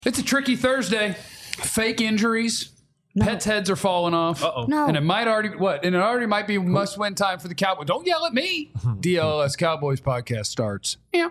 It's a tricky Thursday. Fake injuries. No. Pets' heads are falling off. Uh-oh. No. And it might already might be must-win time for the Cowboys. Don't yell at me. DLS Cowboys podcast starts. Yeah.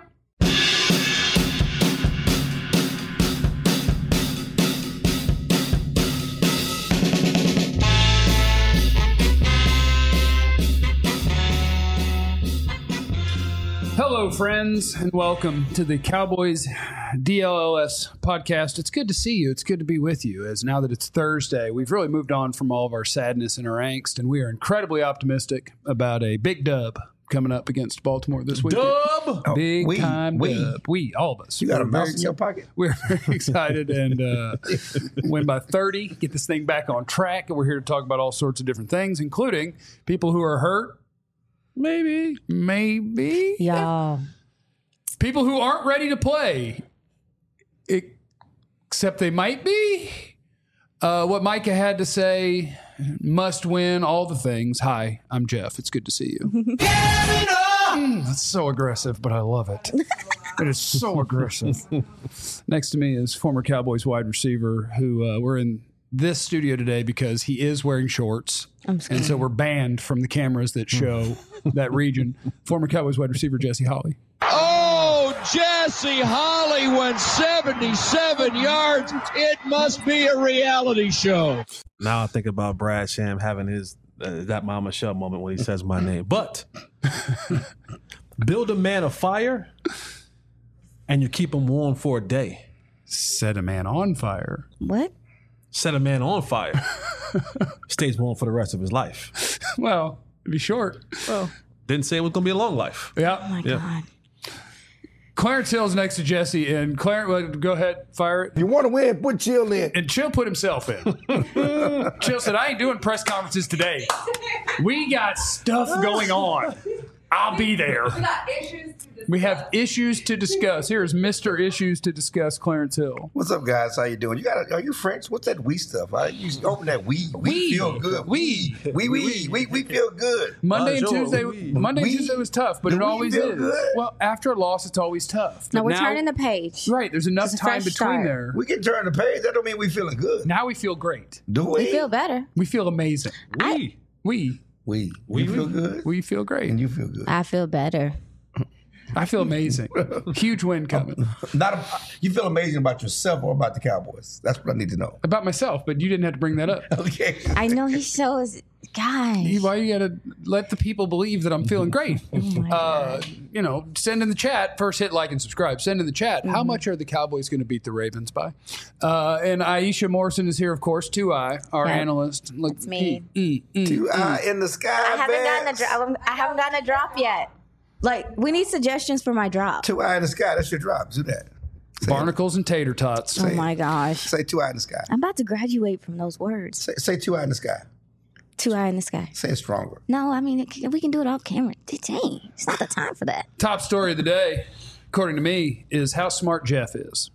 Hello, friends, and welcome to the Cowboys DLS podcast. It's good to see you. It's good to be with you, as now that it's Thursday, we've really moved on from all of our sadness and our angst, and we are incredibly optimistic about a big dub coming up against Baltimore this week. Dub! Big time dub. We, all of us. You got a mouse in your pocket. We're very excited and win by 30, get this thing back on track, and we're here to talk about all sorts of different things, including people who are hurt. Maybe. Y'all. People who aren't ready to play, except they might be. What Micah had to say, must win, all the things. Hi, I'm Jeff. It's good to see you. That's so aggressive, but I love it. It is so aggressive. Next to me is former Cowboys wide receiver who we're in this studio today because he is wearing shorts. And so we're banned from the cameras that show that region. Former Cowboys wide receiver Jesse Holley. Oh, Jesse Holley went 77 yards. It must be a reality show. Now I think about Brad Sham having his that Mama Shell moment when he says my name. But build a man a fire and you keep him warm for a day. Set a man on fire. What? Set a man on fire. Stays warm for the rest of his life. Well, it'd be short. Well, didn't say it was going to be a long life. Yeah. Oh, my God. Clarence Hill's next to Jesse, and Clarence, go ahead, fire it. You want to win, put Chill in. And Chill put himself in. Chill said, I ain't doing press conferences today. We got stuff going on. I'll be there. We have issues to discuss. Here's Mr. Issues to Discuss, Clarence Hill. What's up, guys? How you doing? Are you French? What's that we stuff? You open that we feel good. We feel good. Monday and Tuesday We was tough, but Do it we always feel is. good? Well, after a loss, it's always tough. No, But we're now- turning the page. Right, there's enough It's a time fresh between start. there. We can turn the page. That don't mean we feeling good. Now we feel great. Do we? We feel better. We feel amazing. We. We You feel good? we feel great. And you feel good. I feel better. I feel amazing. Huge win coming. You feel amazing about yourself or about the Cowboys? That's what I need to know. About myself, but you didn't have to bring that up. Okay. I know he shows. Guys. Why you gotta let the people believe that I'm feeling great? Send in the chat. First hit like and subscribe. Send in the chat. How much are the Cowboys going to beat the Ravens by? And Aisha Morrison is here, of course. 2i, our analyst. Look, That's me. 2i in the sky. I haven't gotten a drop yet. Like, we need suggestions for my drop. 2i in the sky. That's your drop. Do that. Barnacles and tater tots. Oh my gosh. Say 2i in the sky. I'm about to graduate from those words. Say 2i in the sky. 2i in the sky. Say it stronger. No, I mean, we can do it off camera. Dang, it's not the time for that. Top story of the day, according to me, is how smart Jeff is.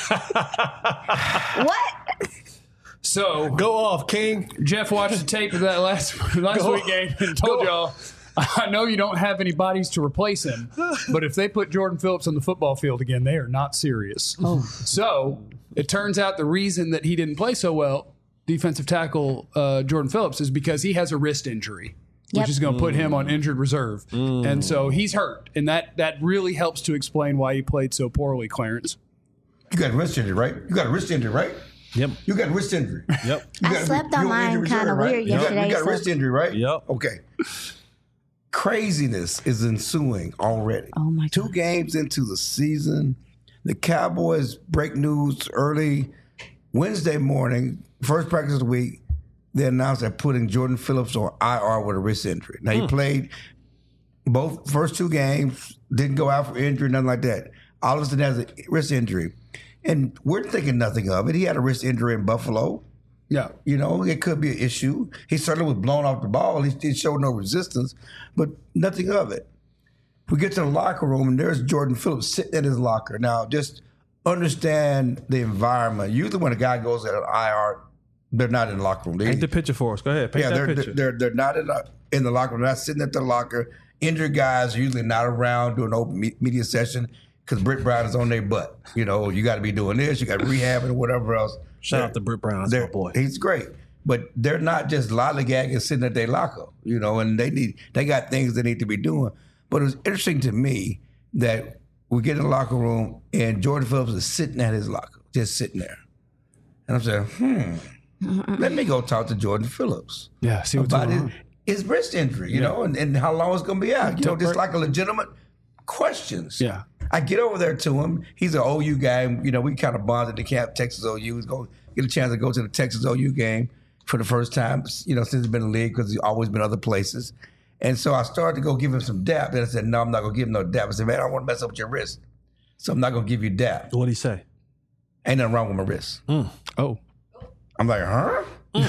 What? So Go off, King. Jeff watched the tape of that last week game and told y'all, I know you don't have any bodies to replace him, but if they put Jordan Phillips on the football field again, they are not serious. Oh. So it turns out the reason that he didn't play so well, defensive tackle Jordan Phillips, is because he has a wrist injury, which is going to put him on injured reserve. And so he's hurt, and that really helps to explain why he played so poorly, Clarence. You got a wrist injury, right? You got a wrist injury, right? Yep. You got a wrist injury. Yep. I slept on mine kind of weird yesterday. You got a wrist injury, right? Yep. Okay. Craziness is ensuing already. Oh, my God. 2 games into the season, the Cowboys break news early Wednesday morning, first practice of the week. They announced they're putting Jordan Phillips on IR with a wrist injury. Now, he played both first 2 games, didn't go out for injury, nothing like that. All of a sudden has a wrist injury. And we're thinking nothing of it. He had a wrist injury in Buffalo. Yeah. It could be an issue. He certainly was blown off the ball. He showed no resistance, but nothing of it. We get to the locker room, and there's Jordan Phillips sitting in his locker. Now, just understand the environment. Usually when a guy goes at an IR, they're not in the locker room. Paint the picture for us. Go ahead. Paint that picture. They're not in the locker room. They're not sitting at the locker. Injured guys are usually not around doing an open media session. because Britt Brown is on their butt. You know, you got to be doing this, you got to rehab and whatever else. Shout out to Britt Brown, that's my boy. He's great. But they're not just lollygagging sitting at their locker, you know, and they got things they need to be doing. But it was interesting to me that we get in the locker room and Jordan Phillips is sitting at his locker, just sitting there. And I'm saying, let me go talk to Jordan Phillips. Yeah, see what's about going on. his wrist injury, you know, and how long it's going to be out. You know, just like a legitimate questions. Yeah. I get over there to him. He's an OU guy. You know, we kind of bonded to camp, Texas OU. He's going to get a chance to go to the Texas OU game for the first time, you know, since he's been in the league because he's always been other places. And so I started to go give him some dap. Then I said, no, I'm not going to give him no dap. I said, man, I don't want to mess up with your wrist. So I'm not going to give you dap. What'd he say? Ain't nothing wrong with my wrist. Oh. I'm like, huh?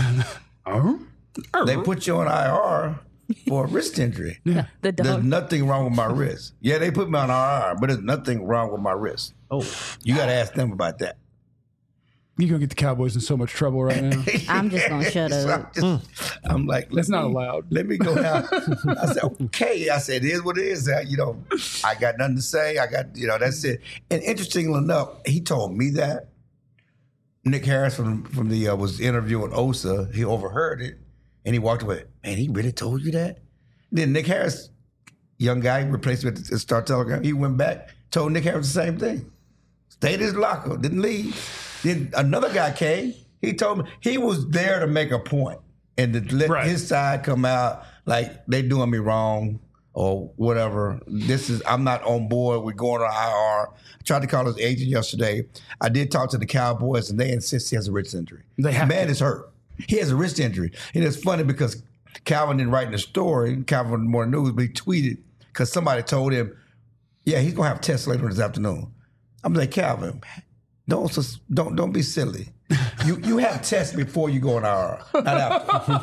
They put you on IR for a wrist injury. The There's dog. nothing wrong with my wrist. Yeah, they put me on IR, but there's nothing wrong with my wrist. Oh. You got to ask them about that. You're going to get the Cowboys in so much trouble right now. I'm just going to shut So up. I'm like, That's not allowed. Let me go down. I said, okay. I said, it is what it is. You know, I got nothing to say. I got, you know, that's it. And interestingly enough, he told me that. Nick Harris from the was interviewing Osa. He overheard it, and he walked away. Man, he really told you that? Then Nick Harris, young guy, replaced with the Star Telegram. He went back, told Nick Harris the same thing. Stayed in his locker, didn't leave. Then another guy came. He told me he was there to make a point and to let his side come out like they doing me wrong or whatever. I'm not on board. We're going on IR. I tried to call his agent yesterday. I did talk to the Cowboys, and they insist he has a wrist injury. They have Man to. is hurt. He has a wrist injury. And it's funny because Calvin didn't write in the story, Calvin Morning News, but he tweeted because somebody told him, yeah, he's going to have tests later this afternoon. I'm like, Calvin, don't be silly. You have tests before you go on IR, not after.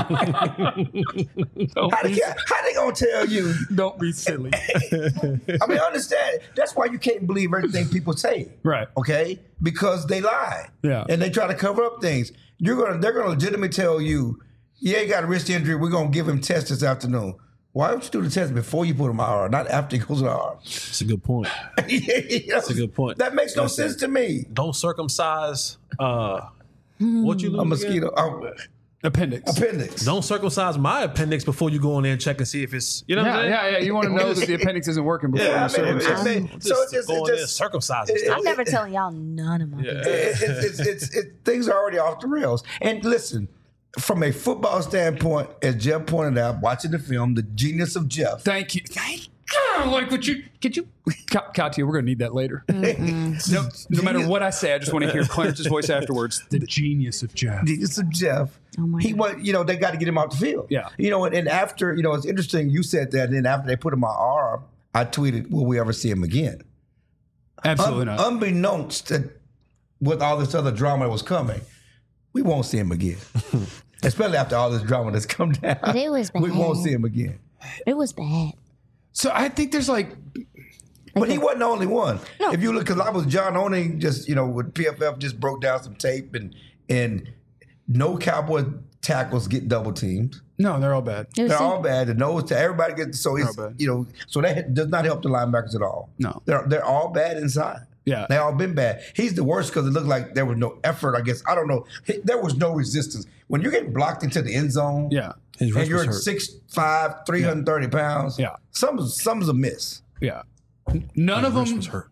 How they gonna tell you? Don't be silly. I mean, understand. That's why you can't believe everything people say. Right. Okay? Because they lie. Yeah. And they try to cover up things. They're gonna legitimately tell you, yeah, he got a wrist injury. We're gonna give him tests this afternoon. Why don't you do the test before you put him on IR, not after he goes on IR? That's a good point. That's a good point. That makes no sense to me. Don't circumcise what you lose A mosquito. Appendix. Don't circumcise my appendix before you go in there and check and see if it's, you know what I'm saying? Yeah. You want to know that the appendix isn't working before Yeah, you circumcise. So it's just go in there and circumcise it. I'm never telling y'all none of my business. Things are already off the rails. And listen, from a football standpoint, as Jeff pointed out, watching the film, the genius of Jeff. Thank you. Like what you could you Katya, we're gonna need that later. No matter what I say, I just want to hear Clarence's voice afterwards. The genius of Jeff. Genius of Jeff. Oh my God. Was, they got to get him off the field. Yeah. And after, it's interesting you said that, and then after they put him on arm, I tweeted, will we ever see him again? Absolutely not. Unbeknownst to with all this other drama that was coming, we won't see him again. Especially after all this drama that's come down. But it was bad. We won't see him again. It was bad. So I think there's But he wasn't the only one. No. If you look, because I was John Oning, just, with PFF just broke down some tape and no Cowboy tackles get double teamed. No, they're all bad. They're all bad. The nose to everybody gets, so it's, bad. So that does not help the linebackers at all. No. They're all bad inside. Yeah. They all been bad. He's the worst because it looked like there was no effort, I guess. I don't know. There was no resistance. When you're getting blocked into the end zone. Yeah. His And wrist you're was at hurt. 6'5", 330 pounds. Yeah. Something's amiss. Yeah. None of Wrist them was hurt.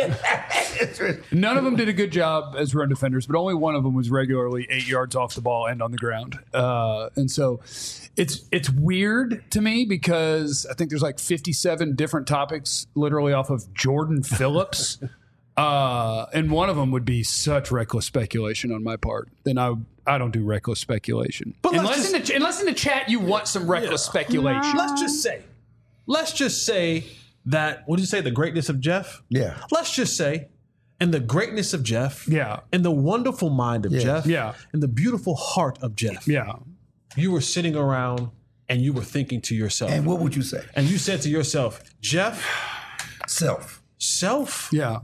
None of them did a good job as run defenders, but only one of them was regularly 8 yards off the ball and on the ground. And so it's weird to me because I think there's like 57 different topics literally off of Jordan Phillips. And one of them would be such reckless speculation on my part. Then I don't do reckless speculation. But unless in the chat you want some reckless speculation. Let's just say that, what did you say, the greatness of Jeff? Yeah. Let's just say, in the greatness of Jeff, Yeah. in the wonderful mind of Jeff, Yeah. in the beautiful heart of Jeff, Yeah. you were sitting around and you were thinking to yourself, And what would you say? and you said to yourself, Jeff, Self. Yeah.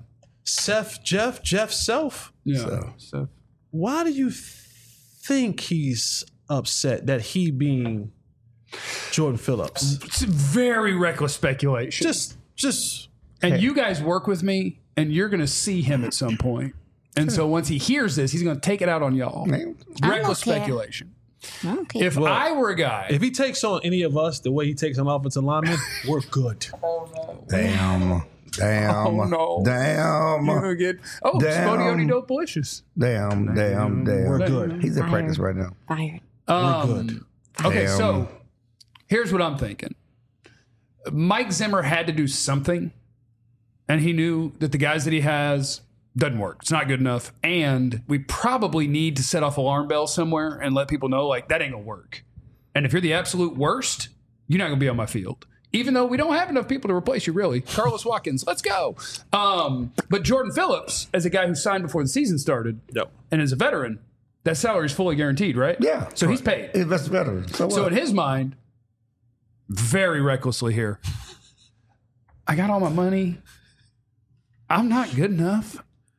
Jeff self, Yeah. So. why do you think he's upset that he being Jordan Phillips? It's very reckless speculation. Just And you guys work with me, and you're going to see him at some point. And so once he hears this, he's going to take it out on y'all. Reckless speculation. Okay. If I were a guy, If he takes on any of us the way he takes on offensive linemen, we're good. Damn. oh no, Damn. you're gonna get Spodioni dope delicious. Damn. We're good. He's in practice right now. Fired. We're good. Okay, Damn. so here's what I'm thinking. Mike Zimmer had to do something, and he knew that the guys that he has doesn't work. It's not good enough, and we probably need to set off alarm bells somewhere and let people know, like, that ain't gonna work. And if you're the absolute worst, you're not gonna be on my field. Even though we don't have enough people to replace you, really. Carlos Watkins, let's go. But Jordan Phillips, as a guy who signed before the season started, and as a veteran, that salary is fully guaranteed, right? Yeah. So he's paid. He's best veteran. So So what? in his mind, very recklessly here, I got all my money. I'm not good enough.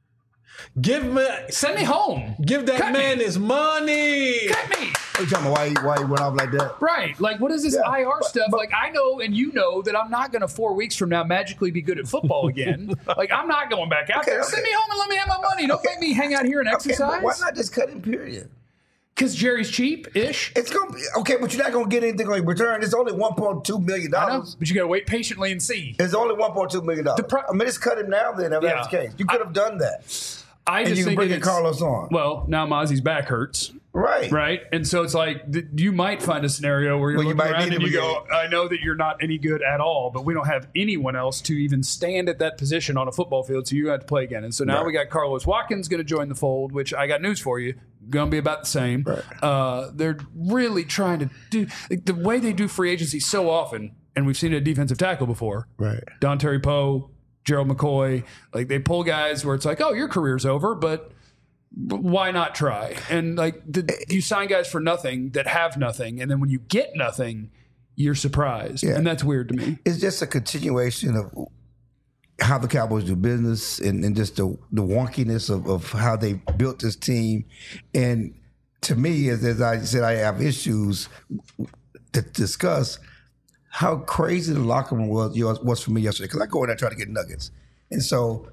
Send me home. Give that Cut man me. his money. Cut me. What you talking about? Why he went off like that? Right. Like, what is this Yeah, IR stuff? Like, I know and you know that I'm not going to 4 weeks from now magically be good at football again. Like, I'm not going back out there. okay. Send me home and let me have my money. Don't make me hang out here and Okay, exercise. but why not just cut him, period? Because Jerry's cheap-ish. It's going to be, okay, but you're not going to get anything on return. It's only $1.2 million. I know, but you got to wait patiently and see. It's only $1.2 million. I mean, just cut him now then, if that's the case. You could have done that. I And just you can think bring it's, Carlos on. Well, now Mozzie's back hurts. Right. Right. And so it's like you might find a scenario where you're Well, you looking might around need and him you go, I know that you're not any good at all, but we don't have anyone else to even stand at that position on a football field, so you have to play again. And so now we got Carlos Watkins going to join the fold, which I got news for you, going to be about the same. Right. They're really trying to do the way they do free agency so often, and we've seen it at defensive tackle before. Right. Don Terry Poe, Gerald McCoy, like they pull guys where it's like, oh, your career's over, but why not try? And like you sign guys for nothing that have nothing, and then when you get nothing, you're surprised, and that's weird to me. It's just a continuation of how the Cowboys do business and just the wonkiness of how they built this team. And to me, as I said, I have issues to discuss how crazy the locker room was for me yesterday, because I go in there and try to get nuggets. And so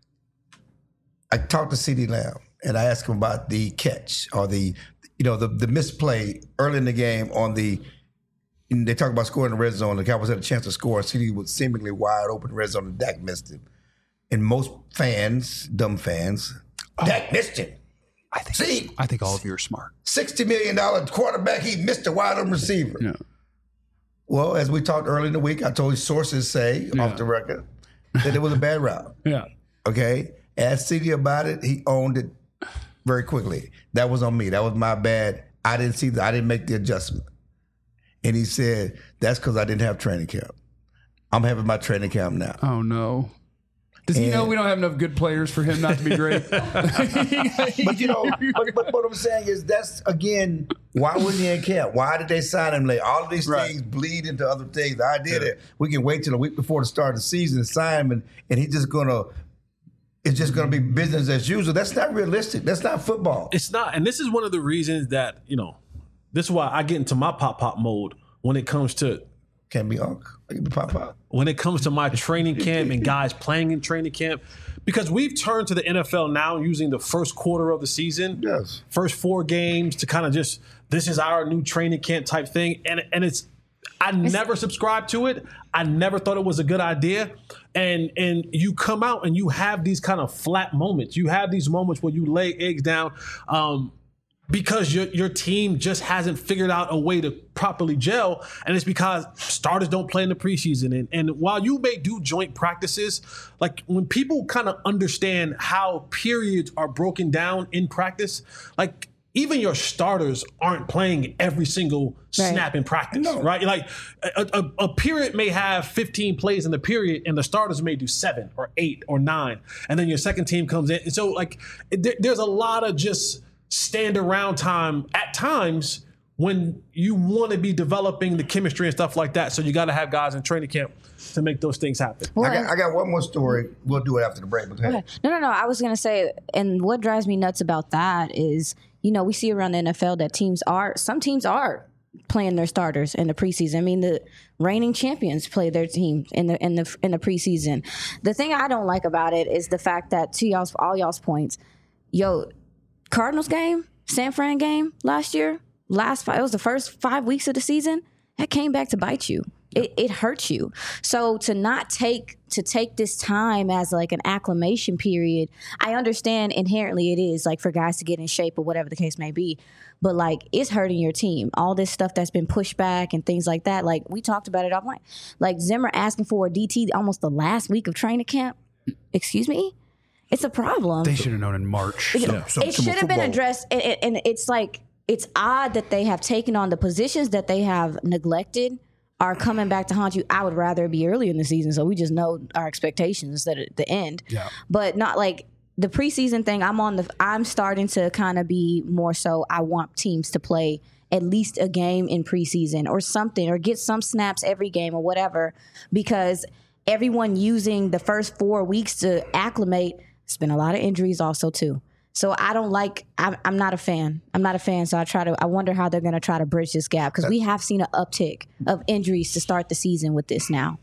I talked to CeeDee Lamb, and I asked him about the catch or the misplay early in the game on the. And they talk about scoring in the red zone. The Cowboys had a chance to score. CeeDee was seemingly wide open in the red zone, and Dak missed him. And most fans, dumb fans, Dak missed him. I think all of you are smart. $60 million quarterback, he missed a wide open receiver. Yeah. Well, as we talked early in the week, I told you sources say off the record that it was a bad route. Yeah. Okay? Asked CeeDee about it. He owned it very quickly. That was on me. That was my bad. I didn't make the adjustment. And he said, that's because I didn't have training camp. I'm having my training camp now. Oh, no. Does he know we don't have enough good players for him not to be great? But but what I'm saying is that's, again, why wasn't he in camp? Why did they sign him late? All of these things bleed into other things. The idea that we can wait till a week before the start of the season and sign him and he's just going to, it's just going to be business as usual. That's not realistic. That's not football. It's not. And this is one of the reasons that, this is why I get into my pop mode when it comes to Can't be Unc. I can be Pop. when it comes to my training camp and guys playing in training camp, because we've turned to the NFL now using the first quarter of the season, Yes. first 4 games to kind of just, this is our new training camp type thing. And I never subscribed to it. I never thought it was a good idea. And you come out and you have these kind of flat moments. You have these moments where you lay eggs down because your team just hasn't figured out a way to properly gel. And it's because starters don't play in the preseason. And while you may do joint practices, like when people kind of understand how periods are broken down in practice, like even your starters aren't playing every single snap in practice, right? Like a period may have 15 plays in the period and the starters may do 7 or 8 or 9. And then your second team comes in. And so like there's a lot of just stand around time at times when you want to be developing the chemistry and stuff like that. So you got to have guys in training camp to make those things happen. I got one more story. We'll do it after the break. But go ahead. No. I was going to say, and what drives me nuts about that is, we see around the NFL that some teams are playing their starters in the preseason. I mean, the reigning champions play their team in the preseason. The thing I don't like about it is the fact that, to all y'all's points, Cardinals game, San Fran game last year, it was the first 5 weeks of the season, that came back to bite you. It hurts you. So to take this time as like an acclimation period, I understand inherently it is like for guys to get in shape or whatever the case may be, but like it's hurting your team. All this stuff that's been pushed back and things like that. Like we talked about it offline. Like Zimmer asking for a DT almost the last week of training camp. Excuse me? It's a problem. They should have known in March. It should have been addressed, and it's like it's odd that they have taken on the positions that they have neglected are coming back to haunt you. I would rather it be early in the season so we just know our expectations instead of the end. Yeah. But not like the preseason thing. I'm starting to kind of be more so I want teams to play at least a game in preseason or something, or get some snaps every game or whatever, because everyone using the first 4 weeks to acclimate, it's been a lot of injuries also too. So I'm not a fan. So I wonder how they're going to try to bridge this gap, because we have seen an uptick of injuries to start the season with this now.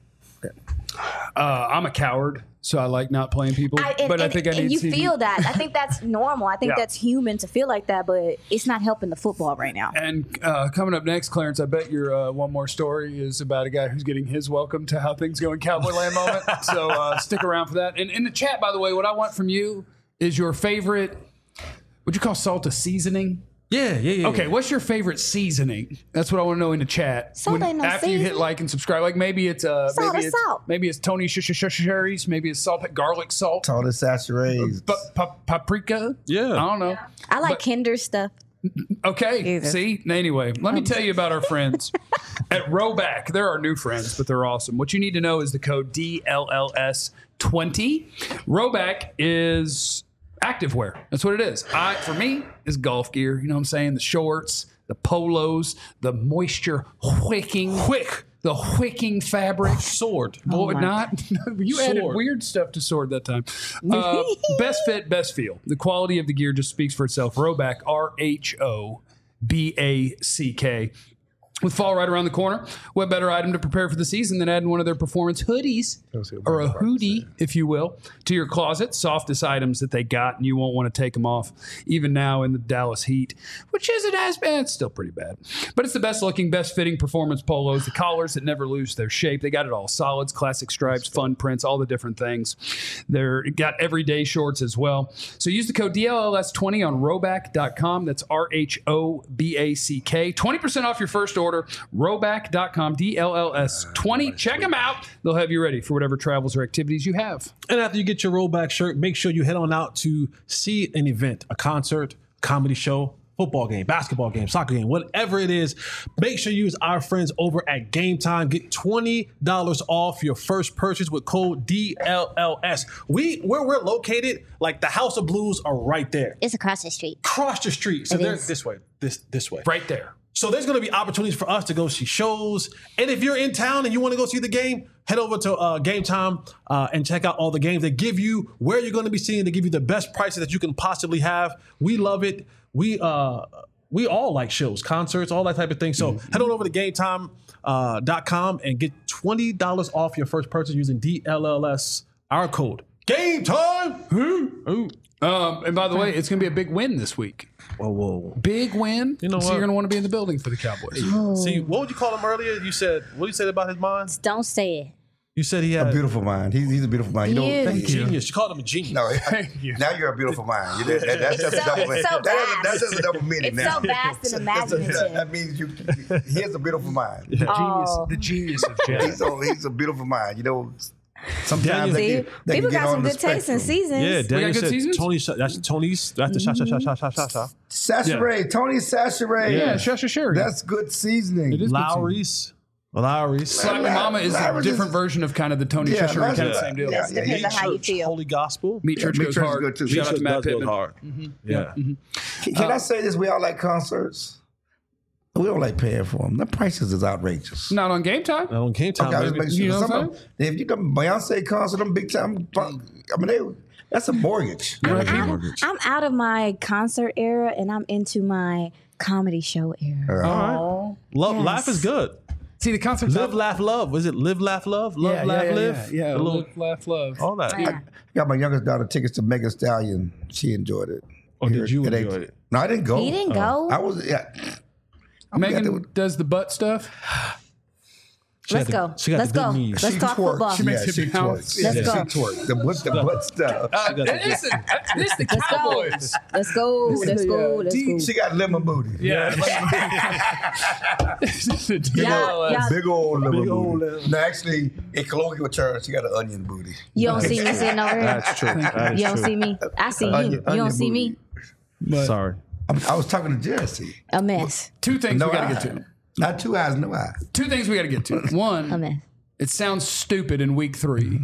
I'm a coward, so I like not playing people. I think I need to see feel that. I think that's normal. I think that's human to feel like that, but it's not helping the football right now. And coming up next, Clarence, I bet your one more story is about a guy who's getting his welcome to how things go in Cowboy Land moment. So stick around for that. And in the chat, by the way, what I want from you is your favorite, would you call salt a seasoning? Yeah. Okay, what's your favorite seasoning? That's what I want to know in the chat. Salt ain't no after you hit like and subscribe, like maybe it's salt. Maybe it's Tony Sherry's, maybe it's garlic salt. Salt is saturated. Paprika. Yeah, I don't know. I like Kinder stuff. Okay, see? Anyway, let me tell you about our friends at Roback. They're our new friends, but they're awesome. What you need to know is the code DLLS20. Roback is activewear. That's what it is. For me, is golf gear. You know what I'm saying? The shorts, the polos, the moisture wicking fabric. Sword. Boy, not. You Sword. added weird stuff to sword that time. Best fit, best feel. The quality of the gear just speaks for itself. Roback, RHOBACK. With fall right around the corner, what better item to prepare for the season than adding one of their performance hoodies, or a hoodie, if you will, to your closet? Softest items that they got, and you won't want to take them off, even now in the Dallas heat, which isn't as bad. It's still pretty bad. But it's the best looking, best fitting performance polos, the collars that never lose their shape. They got it all. Solids, classic stripes, fun prints, all the different things. They're got everyday shorts as well. So use the code DLLS20 on Roback.com. That's RHOBACK. 20% off your first order. Roback.com, DLLS20. Check them out. They'll have you ready for whatever travels or activities you have. And after you get your Roback shirt, make sure you head on out to see an event, a concert, comedy show, football game, basketball game, soccer game, whatever it is. Make sure you use our friends over at Game Time. Get $20 off your first purchase with code DLLS. Where we're located, like the House of Blues are right there. It's across the street. Across the street. So they're this way. Right there. So there's going to be opportunities for us to go see shows. And if you're in town and you want to go see the game, head over to Game Time and check out all the games. They give you where you're going to be seeing. They give you the best prices that you can possibly have. We love it. We all like shows, concerts, all that type of thing. So head on over to GameTime.com and get $20 off your first purchase using DLLS, our code. Game Time! And by the way, it's going to be a big win this week. Whoa. Big win. You know so what? you're going to want to be in the building for the Cowboys. See, what would you call him earlier? What did you say about his mind? Don't say it. You said he had A beautiful mind. He's a beautiful mind. You know, Thank a genius. You called him a genius. No, Thank you. now you're a beautiful mind. That's just a double. It's so vast. That's just a double meaning. It's now. so vast and imaginative. That means he has a beautiful mind. The genius of jazz. He's a beautiful mind. You know, sometimes See, they people can get got some on the good taste in spectrum. seasons. Yeah, Daniel good said seasons? That's the sha. Sachere, Tony Sachere. Yeah, Sherry. That's good seasoning. It is. Lowry's. Slap Your Mama is a different version of kind of the Tony Cheshire, kind of the same deal. Yes, depends on how you feel. Holy Gospel. Meat Church Meat goes Church is hard. good too. Shout out to Matt does go Pittman. hard. Yeah. Can I say this? We all like concerts. We don't like paying for them. The prices is outrageous. Not on Game Time. On Game Time, Okay, I just baby. make sure. You know what Some I'm of them, if you come Beyonce concert, them big time. I mean, That's a mortgage. I'm out of my concert era and I'm into my comedy show era. All right. Life is good. See, the concerts. Live, laugh, love. Was it live, laugh, love? Love, laugh, live? Yeah, The little- live, laugh, love. all that. I got my youngest daughter tickets to Megan Stallion. She enjoyed it. Oh, did you At enjoy 18. it? No, I didn't go. He didn't go. I was. Yeah. Megan does the butt stuff. Let's go. She got Let's the good go. knees. Let's She talk twerks. football. She makes Yeah, it she bounce. twerks. Let's Yeah, go. she twerks. The butt stuff. Listen, this the Let's go. Cowboys. Let's go. Let's go. Let's go. She got lemon booty. Yeah. Yeah. Big old lemon Big old booty. lemon. No, actually, in colloquial terms, she got an onion booty. You don't see me sitting over here. That's true. That is You don't true. see me. I see you. Onion- You onion don't see me. booty. Sorry. I was talking to Jesse. A mess. Two things No we got to eye. get to. Not 2 eyes, no eye. Two things we got to get to. A One, mess. it sounds stupid in week 3,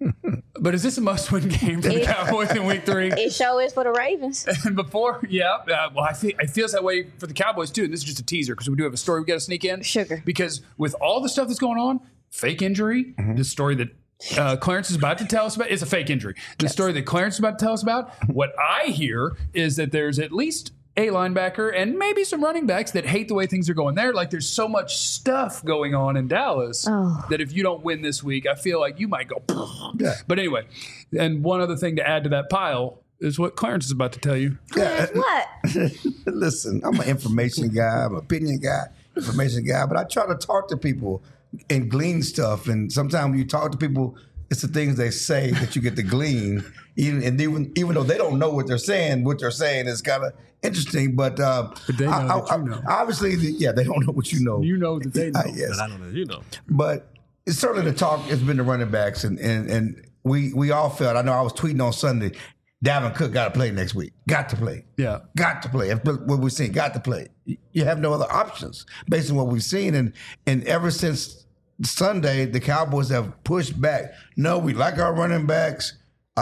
but is this a must-win game for the Cowboys in week 3? It sure is for the Ravens. And before, well, I feel it feels that way for the Cowboys too. And this is just a teaser because we do have a story we got to sneak in. Sugar. Because with all the stuff that's going on, fake injury, this story that Clarence is about to tell us about is a fake injury. The story that Clarence is about to tell us about, what I hear is that there's at least a linebacker and maybe some running backs that hate the way things are going there. Like there's so much stuff going on in Dallas that if you don't win this week, I feel like you might go. Yeah. But anyway, and one other thing to add to that pile is what Clarence is about to tell you. What? Listen, I'm an information guy, I'm an opinion guy, information guy, but I try to talk to people and glean stuff. And sometimes when you talk to people, it's the things they say that you get to glean. Even though they don't know what they're saying is kind of interesting. But they know that you know. Obviously, they don't know what you know. You know that they know. Yes. But I don't know. You know. But it's certainly the talk has been the running backs, and we all felt. I know I was tweeting on Sunday. Dalvin Cook got to play next week. Got to play. Yeah. Got to play. That's what we've seen. Got to play. You have no other options based on what we've seen, and ever since Sunday, the Cowboys have pushed back. No, we like our running backs.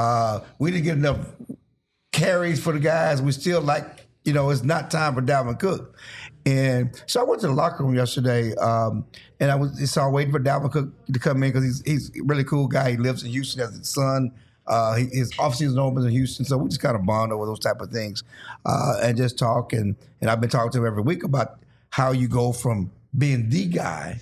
We didn't get enough carries for the guys. We still like, it's not time for Dalvin Cook. And so I went to the locker room yesterday, and I was waiting for Dalvin Cook to come in because he's a really cool guy. He lives in Houston, has a son. His off-season opens in Houston, so we just kind of bond over those type of things and just talk. And I've been talking to him every week about how you go from being the guy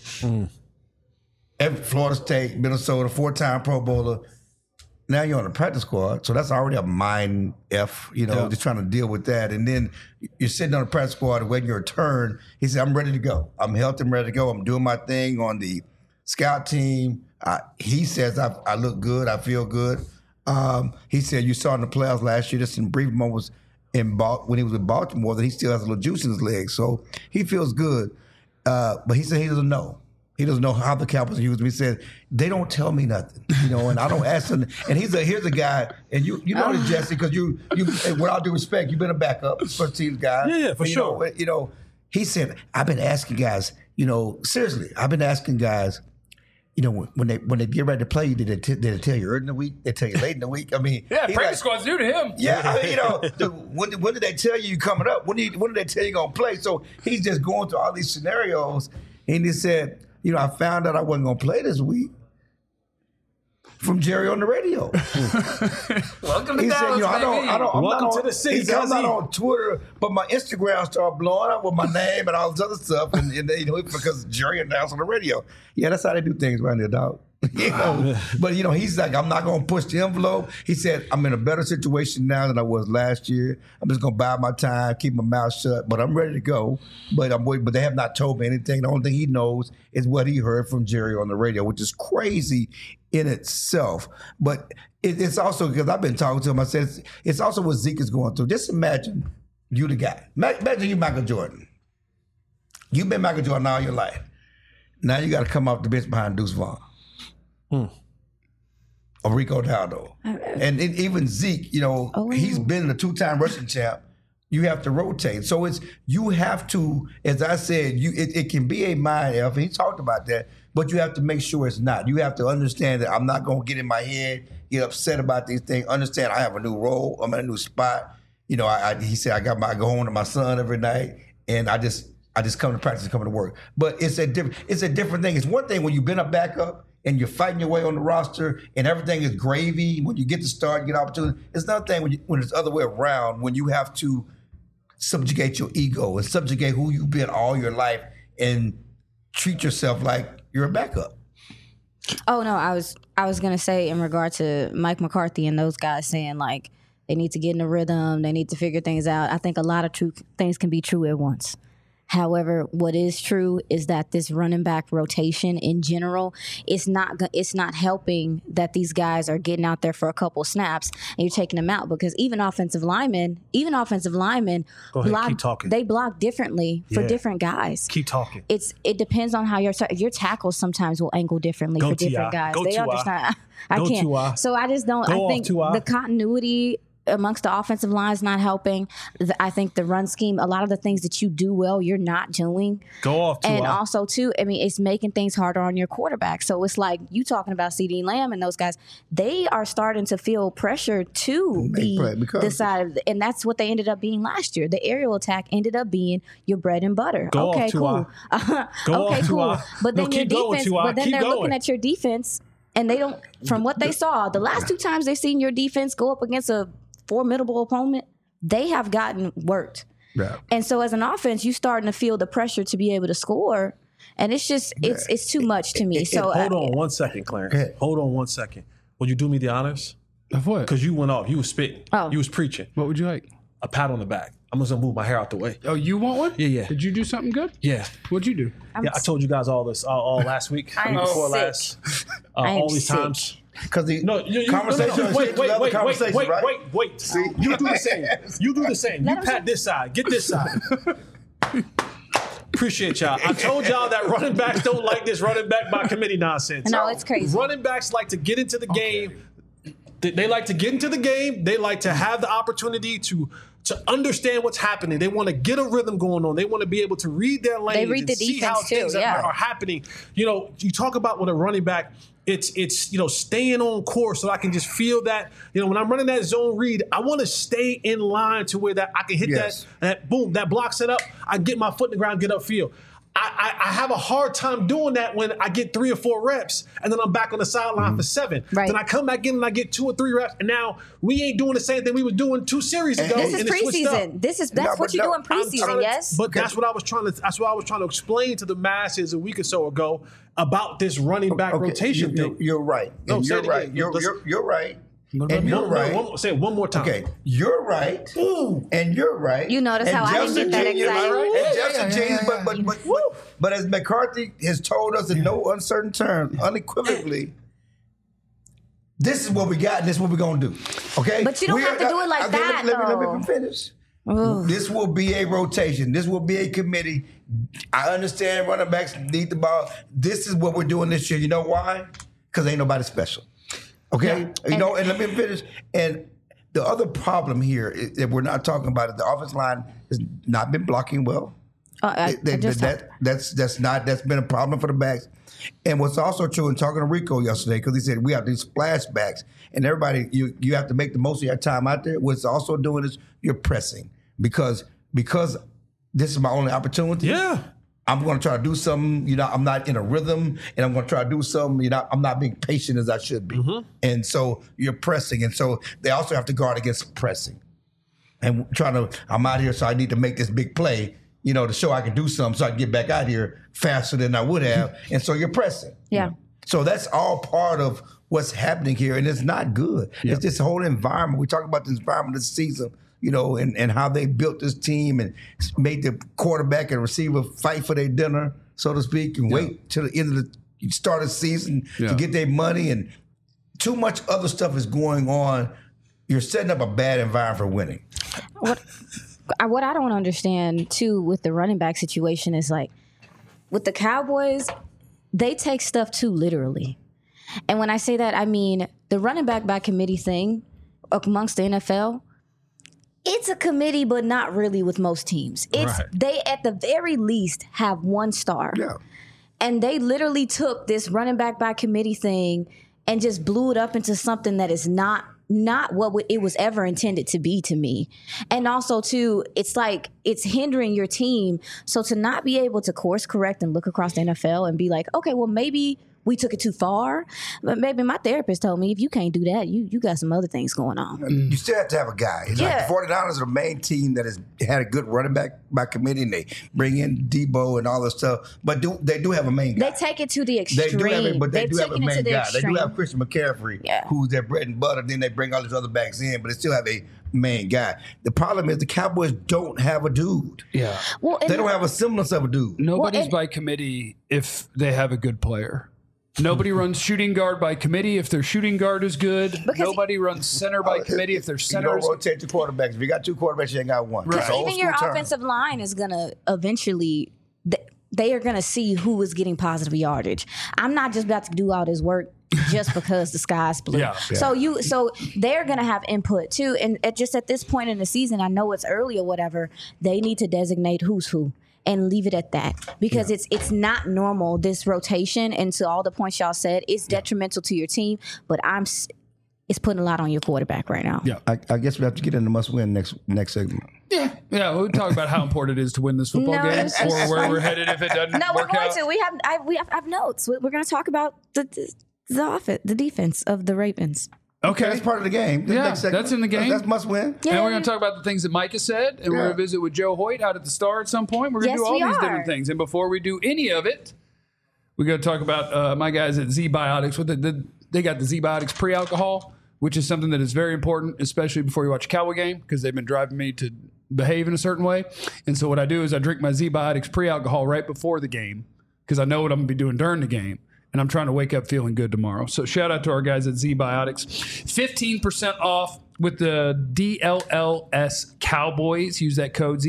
at Florida State, Minnesota, 4-time Pro Bowler. Now you're on the practice squad, so that's already a mind F, just trying to deal with that. And then you're sitting on the practice squad waiting your turn. He said, I'm ready to go. I'm healthy, I'm ready to go. I'm doing my thing on the scout team. He says, I look good, I feel good. He said, you saw in the playoffs last year, just in brief moments when he was in Baltimore, that he still has a little juice in his legs. So he feels good. But he said he doesn't know. He doesn't know how the Cowboys use him. He said, they don't tell me nothing, and I don't ask them. And here's a guy, and you know this, Jesse, because you with all due respect, you've been a backup first team guy. Yeah, for sure. He said, I've been asking guys, seriously, I've been asking guys, when they get ready to play you, did they tell you early in the week? They tell you late in the week? I mean, Yeah, practice squad's new to him. yeah, I mean, when did they tell you coming up? When did they tell you going to play? So he's just going through all these scenarios, and he said, I found out I wasn't going to play this week from Jerry on the radio. Welcome to He said, Dallas, I don't, I'm Welcome not to on, the city, he said, I'm not Guzzy. on Twitter, but my Instagram started blowing up with my name and all this other stuff, and because Jerry announced on the radio. Yeah, that's how they do things around here, dog. But he's like, I'm not going to push the envelope. He said, I'm in a better situation now than I was last year. I'm just going to bide my time, keep my mouth shut, but I'm ready to go. But I'm waiting. But they have not told me anything. The only thing he knows is what he heard from Jerry on the radio, which is crazy in itself. But it's also because I've been talking to him. I said it's also what Zeke is going through. Just imagine you the guy. Imagine you Michael Jordan. You've been Michael Jordan all your life. Now you got to come off the bench behind Deuce Vaughn. Or Rico Dowdle. And even Zeke, he's been a 2-time rushing champ. You have to rotate. So you have to, as I said, it can be a mind F, and he talked about that, but you have to make sure it's not. You have to understand that I'm not going to get in my head, get upset about these things, understand I have a new role, I'm in a new spot. He said, I go home to my son every night, and I just come to practice and come to work. But it's a different thing. It's one thing when you've been a backup and you're fighting your way on the roster and everything is gravy when you get to start, you get opportunity. It's another thing when it's the other way around, when you have to subjugate your ego and subjugate who you've been all your life and treat yourself like you're a backup. Oh no, I was gonna say in regard to Mike McCarthy and those guys saying like they need to get in a rhythm, they need to figure things out. I think a lot of things can be true at once. However, what is true is that this running back rotation in general, it's not helping that these guys are getting out there for a couple snaps and you're taking them out, because even offensive linemen they block differently for different guys. Keep talking. It depends on how your tackles sometimes will angle differently for different guys. They understand. I can't. So I just don't. I think the continuity amongst the offensive line is not helping. I think the run scheme, a lot of the things that you do well, you're not doing. Go off, Tua. And also, too, I mean, it's making things harder on your quarterback. So it's like you talking about CeeDee Lamb and those guys, they are starting to feel pressure to be the side of, and that's what they ended up being last year. The aerial attack ended up being your bread and butter. Go okay, off, cool. Okay, cool. But then your defense, they're going. looking at your defense, and they don't, from what they saw, the last two times they've seen your defense go up against a formidable opponent, they have gotten worked. Yeah. And so as an offense, you starting to feel the pressure to be able to score. And it's just, it's too much to me. So hold on one second, Clarence. Hold on one second. Will you do me the honors? Of what? Because you went off. You was spitting. Oh. You was preaching. What would you like? A pat on the back. I'm just going to move my hair out the way. Oh, you want one? Yeah. Did you do something good? Yeah. What'd you do? I told you guys all this all last week. I am before sick. last. All these sick. times. Because the conversation. Wait. Right? See? You do the same. You do the same. You pat this side. Get this side. Appreciate y'all. I told y'all that running backs don't like this running back by committee nonsense. No, it's crazy. Running backs like to get into the game. They like to get into the game. They like to have the opportunity to understand what's happening. They want to get a rhythm going on. They want to be able to read their lanes. They read the see how defense too, things are happening. You know, you talk about with a running back, it's staying on course so I can just feel that, when I'm running that zone read, I want to stay in line to where that I can hit that boom, that block set up, I get my foot in the ground, get upfield. I have a hard time doing that when I get 3 or 4 reps and then I'm back on the sideline for 7. Right. Then I come back in and I get 2 or 3 reps, and now we ain't doing the same thing we were doing 2 series ago. This is preseason. That's what you do in preseason, yes. But that's what I was trying to explain to the masses a week or so ago about this running back rotation thing. You're right. No, you're right. You're right. And you're right. Say it one more time. Okay, you're right. Ooh. And you're right. You notice and how I didn't get that excited. And Justin James, but as McCarthy has told us in no uncertain terms, unequivocally, this is what we got and this is what we're going to do. Okay? But you don't have to do it like that, Let me finish. Ooh. This will be a rotation. This will be a committee. I understand running backs need the ball. This is what we're doing this year. You know why? Because ain't nobody special. Okay? And let me finish. And the other problem here is that we're not talking about it. The offensive line has not been blocking well. That's been a problem for the backs. And what's also true, in talking to Rico yesterday, because he said we have these splashbacks, and everybody, you have to make the most of your time out there. What's also doing is you're pressing because this is my only opportunity. Yeah. I'm going to try to do something, I'm not in a rhythm, and I'm going to try to do something, I'm not being patient as I should be. Mm-hmm. And so you're pressing. And so they also have to guard against pressing. And I'm out here, so I need to make this big play, to show I can do something so I can get back out here faster than I would have. And so you're pressing. Yeah. So that's all part of what's happening here, and it's not good. Yep. It's this whole environment. We talk about the environment this season, and how they built this team and made the quarterback and receiver fight for their dinner, so to speak, and wait till the end of the start of the season to get their money. And too much other stuff is going on. You're setting up a bad environment for winning. What I don't understand, too, with the running back situation is, like, with the Cowboys, they take stuff too literally. And when I say that, I mean the running back by committee thing amongst the NFL, it's a committee, but not really with most teams. They, at the very least, have 1 star. Yeah. And they literally took this running back by committee thing and just blew it up into something that is not what it was ever intended to be to me. And also, too, it's like it's hindering your team. So to not be able to course correct and look across the NFL and be like, okay, well, maybe we took it too far. But maybe my therapist told me, if you can't do that, you got some other things going on. You still have to have a guy. It's like the 49ers are the main team that has had a good running back by committee, and they bring in Debo and all this stuff. But they do have a main guy. They take it to the extreme. They do have a main guy. They do have Christian McCaffrey, Yeah. who's their bread and butter. Then they bring all these other backs in, but they still have a main guy. The problem is the Cowboys don't have a dude. Yeah. Well, They don't have a semblance of a dude. Nobody's by committee if they have a good player. Nobody runs shooting guard by committee if their shooting guard is good. Nobody runs center by committee if their center You is don't rotate your quarterbacks. If you got two quarterbacks, you ain't got one. Right. It's an old even your school term. offensive line is going to eventually, they are going to see who is getting positive yardage. I'm not just about to do all this work just because the sky's blue. Yeah. So they're going to have input too. And just at this point in the season, I know it's early or whatever, they need to designate who's who and leave it at that, because it's not normal, this rotation. And to all the points y'all said, it's detrimental to your team, but it's putting a lot on your quarterback right now. Yeah. I guess we have to get into must-win next segment. Yeah, we'll talk about how important it is to win this football No, game, it's or just where fine. we're headed if it doesn't No, we're work going out. to. I have notes. We're going to talk about the defense of the Ravens. Okay, That's part of the game. Yeah, Next segment. that's in the game. That's must-win. Yeah. And we're going to talk about the things that Micah said, and we're going to visit with Joe Hoyt out at the Star at some point. We're going to Yes, do all we these are. different things. And before we do any of it, we're going to talk about my guys at Z-Biotics. They got the Z-Biotics pre-alcohol, which is something that is very important, especially before you watch a Cowboy game, because they've been driving me to behave in a certain way. And so what I do is I drink my Z-Biotics pre-alcohol right before the game, because I know what I'm going to be doing during the game. And I'm trying to wake up feeling good tomorrow. So shout out to our guys at Z-Biotics. 15% off with the DLLS Cowboys. Use that code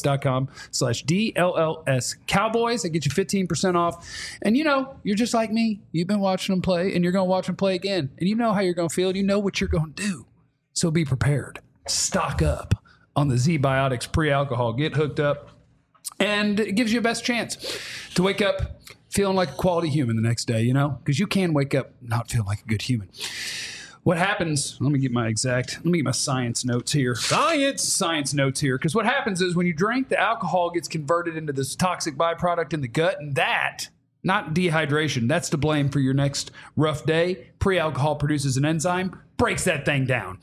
zbiotics.com/DLLS Cowboys. That gets you 15% off. And you're just like me. You've been watching them play, and you're going to watch them play again. And you know how you're going to feel. You know what you're going to do. So be prepared. Stock up on the Z-Biotics pre-alcohol. Get hooked up. And it gives you a best chance to wake up feeling like a quality human the next day, because you can wake up not feeling like a good human. What happens, let me get my science notes here. Science notes here. Because what happens is when you drink, the alcohol gets converted into this toxic byproduct in the gut, and that, not dehydration, that's to blame for your next rough day. Pre-alcohol produces an enzyme, breaks that thing down.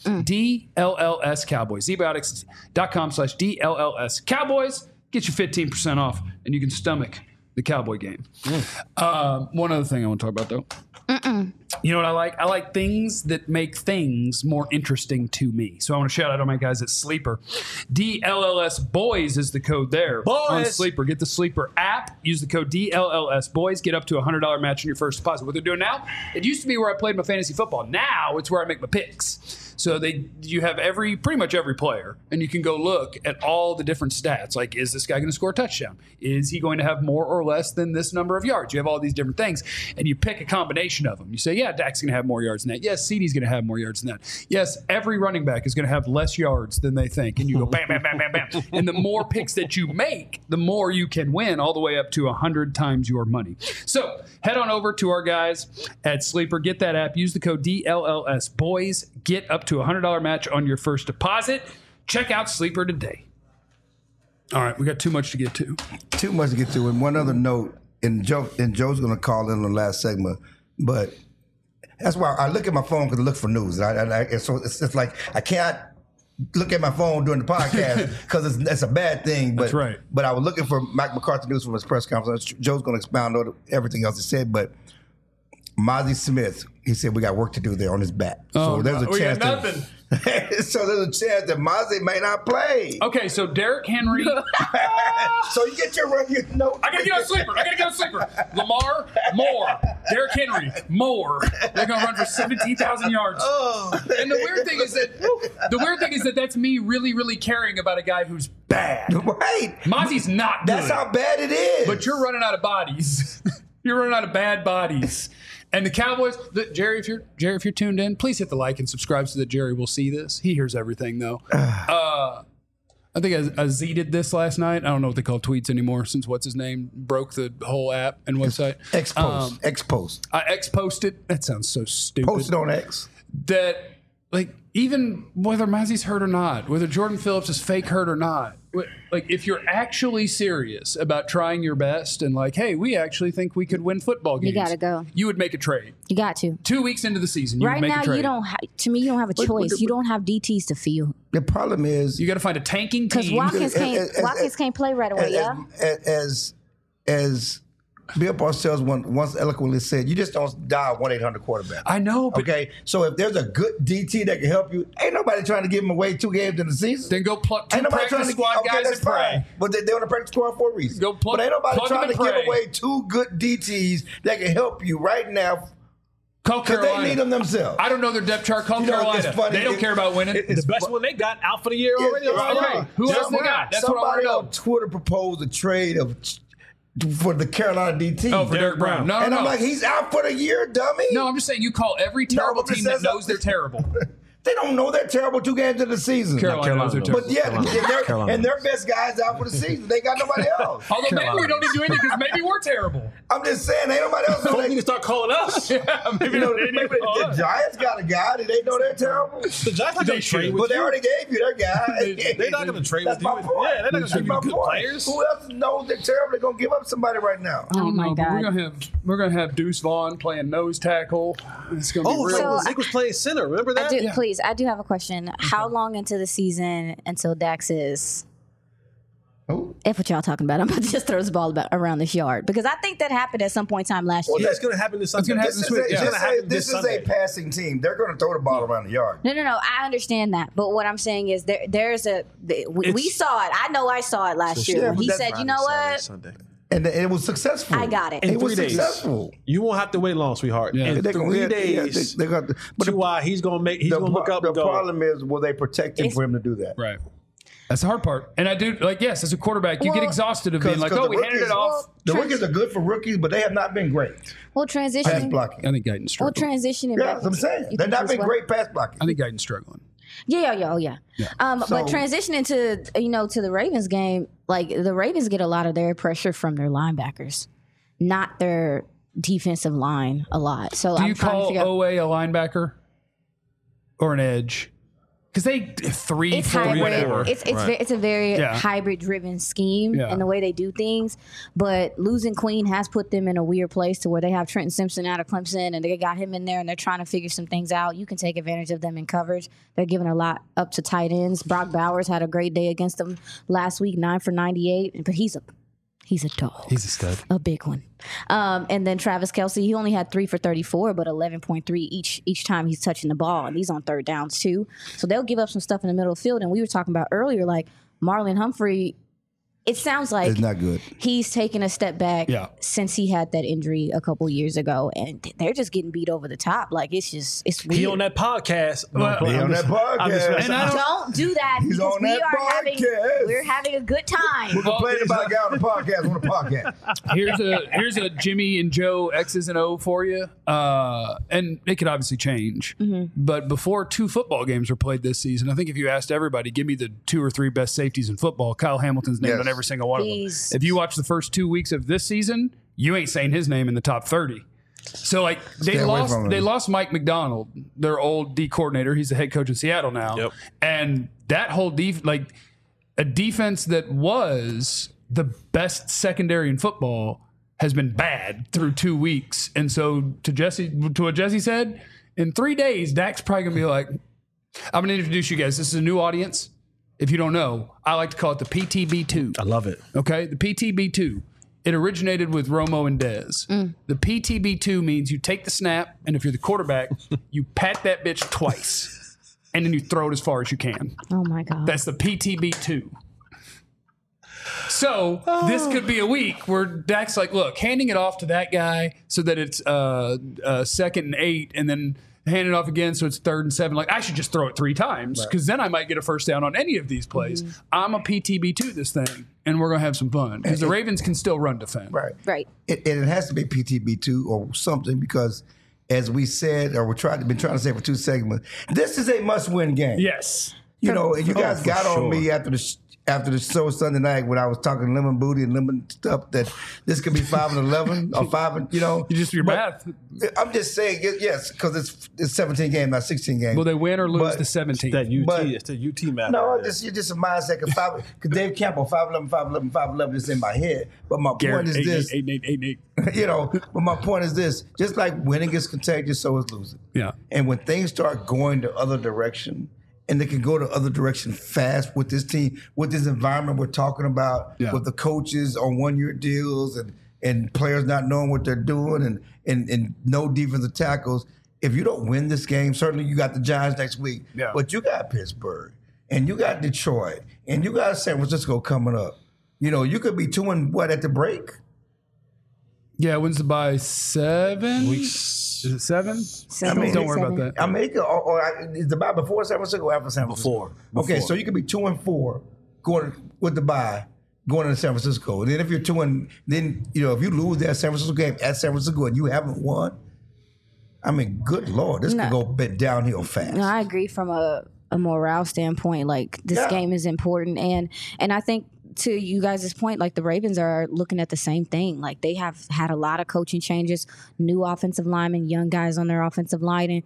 DLLS Cowboys. zbiotics.com/DLLS Cowboys. Get you 15% off, and you can stomach the Cowboy game. One other thing I want to talk about, though. You know what I like? I like things that make things more interesting to me. So I want to shout out all my guys at Sleeper. DLLS Boys is the code there. On Sleeper. Get the Sleeper app. Use the code DLLS Boys. Get up to a $100 match on your first deposit. What they're doing now, it used to be where I played my fantasy football. Now it's where I make my picks. So you have pretty much every player, and you can go look at all the different stats. Like, is this guy going to score a touchdown? Is he going to have more or less than this number of yards? You have all these different things, and you pick a combination of them. You say, yeah, Dak's going to have more yards than that. Yes, CeeDee's going to have more yards than that. Yes, every running back is going to have less yards than they think. And you go bam, bam, bam, bam, bam. And the more picks that you make, the more you can win, all the way up to 100 times your money. So head on over to our guys at Sleeper. Get that app. Use the code DLLS Boys. Get up to a $100 match on your first deposit. Check out Sleeper today. All right, we got too much to get to. Too much to get to. And one other note, and Joe's going to call in on the last segment, but that's why I look at my phone because I look for news. And so it's like I can't look at my phone during the podcast because it's a bad thing. But, That's right. But I was looking for Mike McCarthy news from his press conference. Joe's going to expound on everything else he said, but Mozzie Smith, he said we got work to do there on his back. So there's a chance nothing. So there's a chance that Mozzie may not play. Okay, so Derrick Henry. So you get your run, I I gotta get on Sleeper. Lamar, more. Derrick Henry, more. They're gonna run for 17,000 yards. Oh. And the weird thing is that that's me really, really caring about a guy who's bad. Right. Mozzie's not good. That's how bad it is. But you're running out of bodies. You're running out of bad bodies. And the Cowboys, Jerry, if you're tuned in, please hit the like and subscribe so that Jerry will see this. He hears everything, though. I think I Z-ed this last night. I don't know what they call tweets anymore since what's his name broke the whole app and website. X-post. I X-posted. That sounds so stupid. Post it on X. That, like, even whether Mazzie's hurt or not, whether Jordan Phillips is fake hurt or not, like if you're actually serious about trying your best and like, hey, we actually think we could win football games, You gotta go. You would make a trade. You got to. 2 weeks into the season, you Right would make now, a trade. you don't. To me, you don't have a choice. You don't have DTs to field The problem is You got to find a tanking because team. Watkins can't play right away. as Bill Parcells once eloquently said, you just don't dial 1-800 quarterback. I know, but Okay, so if there's a good DT that can help you, ain't nobody trying to give him away 2 games in the season. then go pluck 2 Ain't nobody trying practice to squad guys that's and pray. fine. But they're on the practice squad for a reason. Go plug- but ain't nobody plug them trying to and give pray. away 2 good DTs that can help you right now Call because Carolina. they need them themselves. I don't know their depth chart. Call You know, Carolina. it's funny. They don't care about winning. It's the best one they got out for the year already. Okay, who else they got? That's what I want Somebody to know. on Twitter proposed a trade for the Carolina DT. Oh, for Derek Brown. No, and no. I'm like, he's out for the year, dummy. No, I'm just saying you call every terrible but team that says- knows they're terrible. They don't know they're terrible 2 games into the season. Carolina knows they're terrible. But yeah, and their best guys out for the season. They got nobody else. Although maybe we don't need to do anything because maybe we're terrible. I'm just saying, ain't nobody else. Folks need to start calling us. Maybe You know, they need maybe to call the us. Giants got a guy. Did they know they're terrible? The Giants not They going to trade should. with But they you. already gave you their guy. They're not going to trade That's with you. my point. Yeah, they're not going to give you That's good my point. players. Who else knows they're terrible? They're gonna give up somebody right now. I don't Oh, my know, but God. we're gonna have Deuce Vaughn playing nose tackle. It's gonna be Oh, real. so Zeke was playing center. Remember that? I do have a question. How long into the season until Dax is? Who? If what y'all talking about, I'm about to just throw this ball around this yard because I think that happened at some point in time last Well, year. that's going to happen this Sunday. gonna happen This this week. is, Yeah. a, It's gonna happen this this is Sunday. a passing team. They're going to throw the ball around the yard. No. I understand that, but what I'm saying is we saw it. I know I saw it last year. yeah, When but he that's said, "You know what? Sunday. And it was successful. I got it." In It was 3 days. successful. You won't have to wait long, sweetheart. Yeah. In They're 3 gonna- yeah, days, they got. But T.Y., he's going to look up the and go. problem is, will they protect him for him to do that? Right. That's the hard part. And I do yes, as a quarterback, you get Well, exhausted of being like, Because oh, we the handed it rookies- off. The rookies are good for rookies, but they have not been great Well, pass transitioning. blocking. I think Guyton's Well, struggling. transitioning. Yeah, back that's what I'm saying. you They've think not as been well? great pass blocking. I think Guyton's struggling. Yeah. But So- transitioning to the Ravens game, like the Ravens get a lot of their pressure from their linebackers, not their defensive line a lot. So Do I'm you trying to call figure out. OA a linebacker or an edge? Because they 3, It's 4, hybrid. whatever. It's a very Yeah. hybrid driven scheme Yeah. in the way they do things. But losing Queen has put them in a weird place to where they have Trenton Simpson out of Clemson and they got him in there and they're trying to figure some things out. You can take advantage of them in coverage. They're giving a lot up to tight ends. Brock Bowers had a great day against them last week, 9 for 98. But he's a dog. He's a stud. A big one. And then Travis Kelce, he only had 3 for 34, but 11.3 each time he's touching the ball. And he's on third downs too. So they'll give up some stuff in the middle of the field. And we were talking about earlier, like Marlon Humphrey, it sounds like It's not good. he's taken a step back Yeah. since he had that injury a couple years ago. And they're just getting beat over the top. Like it's weird. He on that podcast. He on that podcast. And I don't- Don't do that He's because on that podcast. we're having a good time. We're complaining about a guy on the podcast on the podcast. Here's a Jimmy and Joe X's and O for you, and it could obviously change. But before 2 football games were played this season, I think if you asked everybody, give me the 2 or 3 best safeties in football, Kyle Hamilton's named Yes. on every single one of He's- them. If you watch the first 2 weeks of this season, you ain't saying his name in the top 30. So like Stay away from him. they lost Mike McDonald, their old D coordinator. He's the head coach in Seattle now, Yep. and that whole a defense that was the best secondary in football has been bad through 2 weeks. And so to what Jesse said, in 3 days, Dak's probably gonna be like, I'm gonna introduce you guys. This is a new audience. If you don't know, I like to call it the PTB2. I love it. Okay, the PTB2. It originated with Romo and Dez. The PTB2 means you take the snap, and if you're the quarterback, you pat that bitch twice, and then you throw it as far as you can. Oh my God. That's the PTB2. So this could be a week where Dak's like, look, handing it off to that guy so that it's 2nd and 8, and then hand it off again so it's 3rd and 7. Like, I should just throw it 3 times because then I might get a first down on any of these plays. I'm a PTB2 this thing, and we're going to have some fun because the Ravens can still run defend. Right. Right. It has to be PTB2 or something because, as we said, or been trying to say for 2 segments, this is a must-win game. Yes. You know, and you guys for got on sure. me after after the show Sunday night when I was talking lemon booty and lemon stuff that this could be 5-11 or 5, you know. You just do your math. I'm just saying, yes, because it's 17 games, not 16 games. Will they win or lose But- the 17? That UT, But- it's the UT math. No, right there. you're just a mindset. Because Dave Campbell, 5'11", 5'11", 5'11", is in my head. But my point is this, 8. you know, but my point is this, just like winning is contagious, so is losing. Yeah. And when things start going the other direction, and they can go the other direction fast with this team, with this environment we're talking about, Yeah. with the coaches on one-year deals and players not knowing what they're doing and no defensive tackles. If you don't win this game, certainly you got the Giants next week, Yeah. but you got Pittsburgh, and you got Detroit, and you got San Francisco coming up. You know, you could be 2-1 at the break. Yeah, wins the by 7 weeks. Is it 7? Don't worry about that. I mean, is the bye before San Francisco or after San Francisco? Before. Okay, so you could be 2-4 going with the bye, going into San Francisco. And then if you're 2-, then you know if you lose that San Francisco game at San Francisco and you haven't won, I mean, good Lord, this could go bit downhill fast. No, I agree from a morale standpoint. Like this game is important, and I think to you guys' point, like the Ravens are looking at the same thing. Like they have had a lot of coaching changes, new offensive linemen, young guys on their offensive linemen,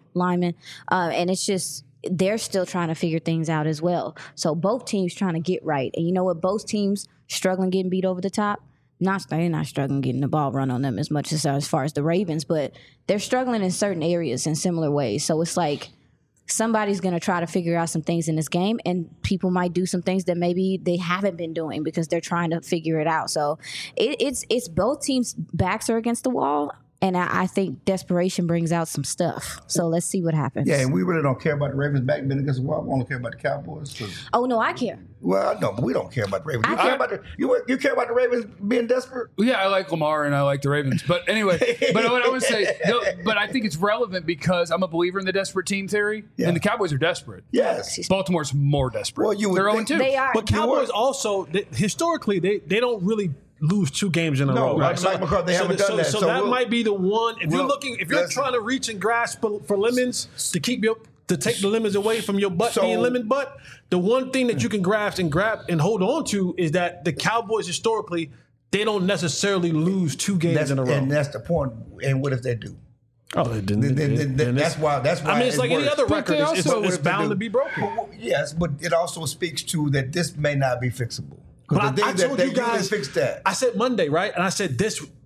and it's just they're still trying to figure things out as well. So both teams trying to get right, and you know what? Both teams struggling getting beat over the top. They're not struggling getting the ball run on them as much as far as the Ravens, but they're struggling in certain areas in similar ways. So it's like somebody's going to try to figure out some things in this game, and people might do some things that maybe they haven't been doing because they're trying to figure it out. So it's both teams' backs are against the wall, and I think desperation brings out some stuff. So let's see what happens. Yeah, and we really don't care about the Ravens back being against the wall. We only care about the Cowboys. Oh no, I care. Well, no, but we don't care about the Ravens. You I care about you care about the Ravens being desperate? Yeah, I like Lamar and I like the Ravens. But anyway, but what I would say, but I think it's relevant because I'm a believer in the desperate team theory, and the Cowboys are desperate. Yes. Baltimore's more desperate. Well, you would They're think 0-2. They are. But Cowboys also, historically, they don't really lose 2 games in a row. Right. Like McCarthy, they haven't done that. So So that we'll- might be the one. If you're listen. trying to reach and grasp for lemons to take the lemons away from your butt So- being lemon butt, the one thing that you can grasp and hold on to is that the Cowboys historically they don't necessarily lose 2 games in a row. And that's the point. And what if they do? Oh, it didn't. Then that's why. I mean, it's like any works. other But record. they It's also- bound to be broken. Well, yes, but it also speaks to that this may not be fixable. But Because I told you guys, fix that. I said Monday, right? And I said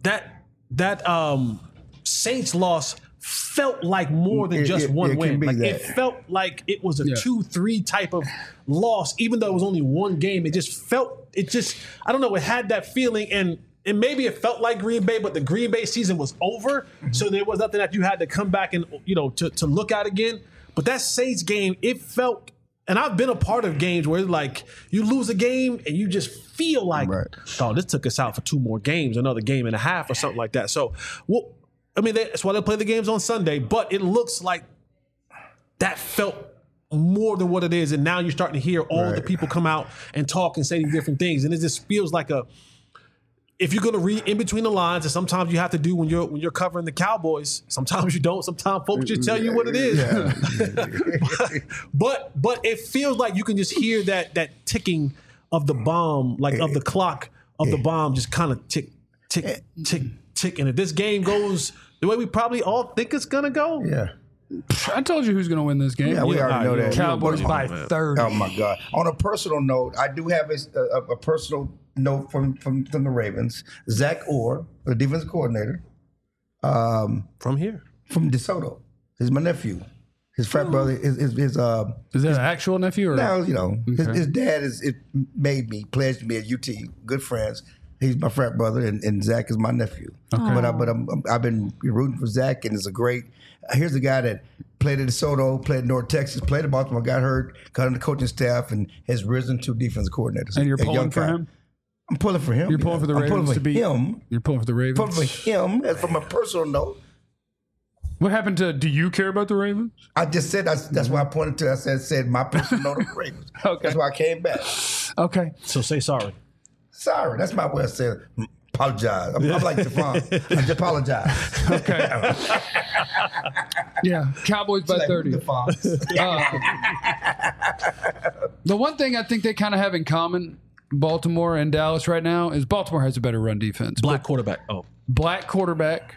that Saints loss felt like more than just one it can win. be Like that. it felt like it was a 2-3 type of loss, even though it was only one game. It just I don't know, it had that feeling and maybe it felt like Green Bay, but the Green Bay season was over. So there was nothing that you had to come back and, to look at again. But that Saints game, it felt, and I've been a part of games where it's like you lose a game and you just feel like, oh, this took us out for 2 more games, another game and a half or something like that. So, that's why they play the games on Sunday, but it looks like that felt more than what it is. And now you're starting to hear all the people come out and talk and say these different things. And it just feels like if you're going to read in between the lines, and sometimes you have to do when you're covering the Cowboys, sometimes you don't. Sometimes folks just tell you what it is. but it feels like you can just hear that ticking of the bomb, like of the clock of the bomb, just kind of tick, tick, tick, tick. And if this game goes the way we probably all think it's going to go, I told you who's going to win this game. Yeah, we already know that. Cowboys by 30. Oh my God! On a personal note, I do have a personal note from the Ravens. Zach Orr, the defensive coordinator, from here, from DeSoto. He's my nephew. His frat brother is Is that an actual nephew? Or? now his dad pledged me at UT. Good friends. He's my frat brother, and Zach is my nephew. Okay. But I've been rooting for Zach, and it's a great. Here's a guy that played at DeSoto, played at North Texas, played at Baltimore, got hurt, got on the coaching staff, and has risen to defensive coordinator. And you're pulling for him? I'm pulling for him. You're pulling for the Ravens I'm pulling for to beat him. You're pulling for the Ravens. Pulling for him. As from a personal note. What happened to? Do you care about the Ravens? I just said that's why I pointed to. I said my personal note of the Ravens. Okay. That's why I came back. Okay. so say sorry. Sorry, that's my way of saying apologize. I'm like Javon. I just apologize. Okay. Yeah. Cowboys by 30. Javon. The one thing I think they kind of have in common Baltimore and Dallas right now is Baltimore has a better run defense. Black quarterback. Black quarterback.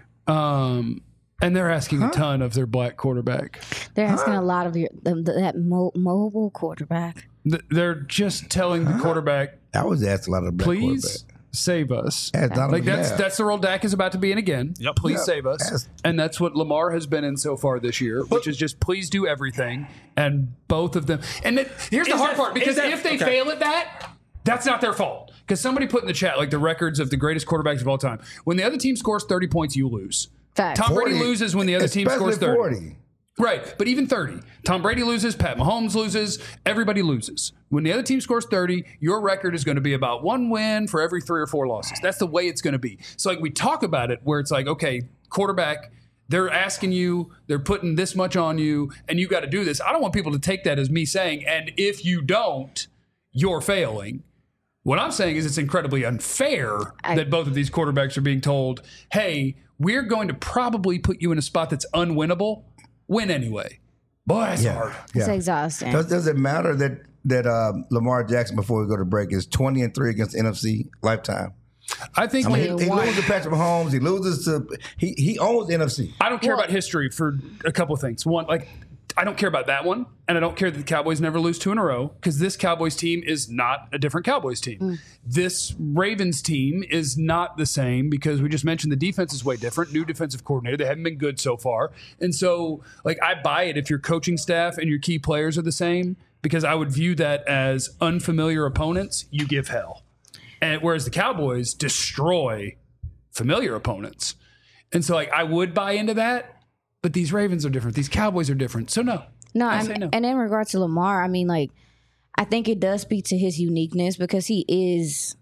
And they're asking a ton of their black quarterback. They're asking a lot of that mobile quarterback. They're just telling the quarterback, I was asked a lot of the black please quarterback. save us. Like that's the role Dak is about to be in again. Yep. Please save us. And that's what Lamar has been in so far this year, which is just please do everything. And both of them. And here's the hard part, because if they fail at that, that's not their fault. Because somebody put in the chat like the records of the greatest quarterbacks of all time. When the other team scores 30 points, you lose. Fact. Tom Brady loses when the other team scores 30. 40. Right, but even 30. Tom Brady loses, Pat Mahomes loses, everybody loses. When the other team scores 30, your record is going to be about 1 win for every 3 or 4 losses. That's the way it's going to be. So like we talk about it where it's like, okay, quarterback, they're asking you, they're putting this much on you, and you got to do this. I don't want people to take that as me saying, and if you don't, you're failing. What I'm saying is it's incredibly unfair that both of these quarterbacks are being told, hey, we're going to probably put you in a spot that's unwinnable. Win anyway. Boy, that's hard. It's exhausting. Does it matter that Lamar Jackson, before we go to break, is 20-3 against NFC lifetime? I think he loses to Patrick Mahomes. He loses to he owns the NFC. I don't care about history for a couple of things. One, like I don't care about that one, and I don't care that the Cowboys never lose 2 in a row because this Cowboys team is not a different Cowboys team. This Ravens team is not the same because we just mentioned the defense is way different. New defensive coordinator. They haven't been good so far. And so, like, I buy it if your coaching staff and your key players are the same because I would view that as unfamiliar opponents. You give hell. And whereas the Cowboys destroy familiar opponents. And so, like, I would buy into that. But these Ravens are different. These Cowboys are different. So no. I say no. And in regards to Lamar, I mean, like, I think it does speak to his uniqueness because he is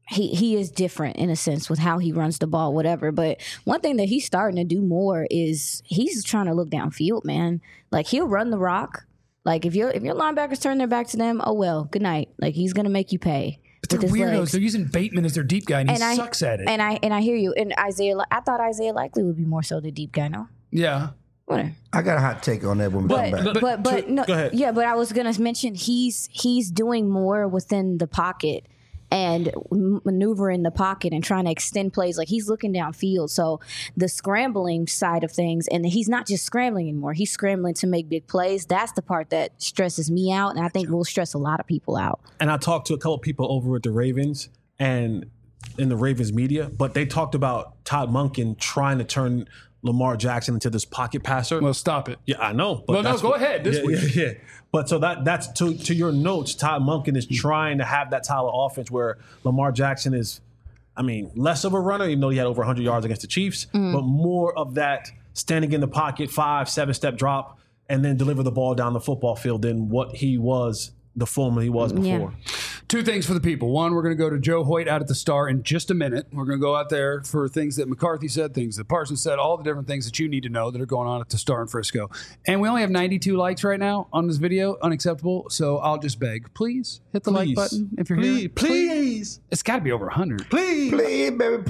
different in a sense with how he runs the ball, whatever. But one thing that he's starting to do more is he's trying to look downfield, man. Like he'll run the rock. Like if your linebackers turn their back to them, oh well, good night. Like he's gonna make you pay. But they're weirdos. Legs. They're using Bateman as their deep guy, and he sucks at it. And I hear you. And I thought Isaiah Likely would be more so the deep guy, no? Yeah. Whatever. I got a hot take on that when we come back. But no, go ahead. Yeah, but I was gonna mention he's doing more within the pocket and maneuvering the pocket and trying to extend plays. Like he's looking downfield. So the scrambling side of things, and he's not just scrambling anymore. He's scrambling to make big plays. That's the part that stresses me out, and I think will stress a lot of people out. And I talked to a couple of people over at the Ravens and in the Ravens media, but they talked about Todd Monken trying to turn Lamar Jackson into this pocket passer. Well, stop it. Yeah, I know. But go ahead. This week. Yeah. But so that's to your notes. Todd Monken is trying to have that style of offense where Lamar Jackson is, I mean, less of a runner, even though he had over 100 yards against the Chiefs, but more of that standing in the pocket, 5-7 step drop, and then deliver the ball down the football field than what he was, the former he was before. Yeah. 2 things for the people. One, we're going to go to Joe Hoyt out at the Star in just a minute. We're going to go out there for things that McCarthy said, things that Parsons said, all the different things that you need to know that are going on at the Star in Frisco. And we only have 92 likes right now on this video. Unacceptable. So I'll just beg, please hit the like button if you're here. Please. It's got to be over 100. Please, baby,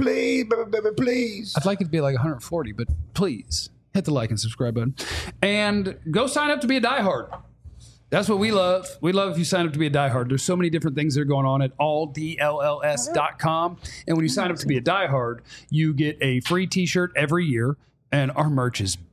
please. I'd like it to be like 140, but please hit the like and subscribe button. And go sign up to be a diehard. That's what we love. We love if you sign up to be a diehard. There's so many different things that are going on at alldlls.com. And when you sign up to be a diehard, you get a free t-shirt every year. And our merch is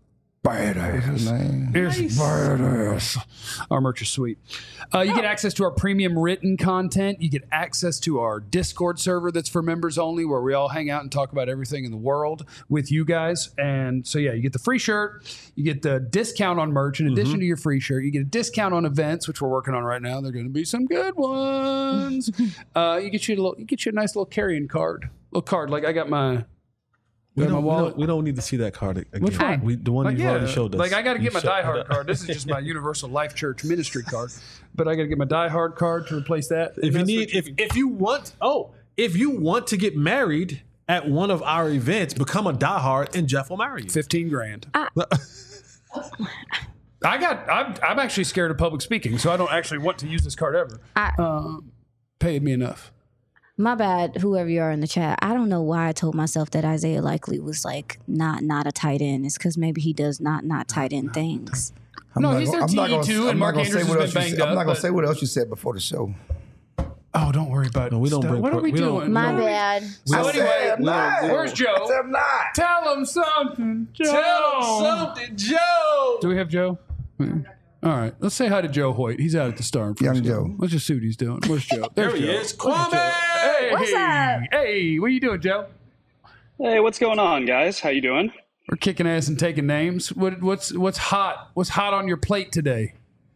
badass. It's badass. Our merch is sweet. You get access to our premium written content. You get access to our Discord server that's for members only, where we all hang out and talk about everything in the world with you guys. And so, yeah, you get the free shirt. You get the discount on merch. In addition to your free shirt, you get a discount on events, which we're working on right now. They're going to be some good ones. You get you a nice little carrying card. Little card. Like I got my... We don't need to see that card again. Which one? The one you've already showed us. Like, I got to get my Die Hard card. This is just my Universal Life Church ministry card. But I got to get my Die Hard card to replace that. If you want to get married at one of our events, become a Die Hard and Jeff will marry you. $15,000. I'm actually scared of public speaking, so I don't actually want to use this card ever. Paid me enough. My bad, whoever you are in the chat. I don't know why I told myself that Isaiah Likely was like not a tight end. It's because maybe he does not tight end things. He's their TE2, and Mark Andrews has been banged up. I'm not going to say what else you said before the show. Oh, Oh, don't worry about it. we don't bring What are we we don't- doing? My No. bad. So anyway, I'm not. where's Joe? I'm not. Tell him something, Joe. Tell something, Joe. Do we have Joe? All right. Let's say hi to Joe Hoyt. He's out at the Star. Young Joe. Let's just see what he's doing. Where's Joe? There There's he Joe. is. Kwame. Hey, What's up? Hey, what are you doing, Joe? Hey, what's going on, guys? How you doing? We're kicking ass and taking names. What's hot? What's hot on your plate today?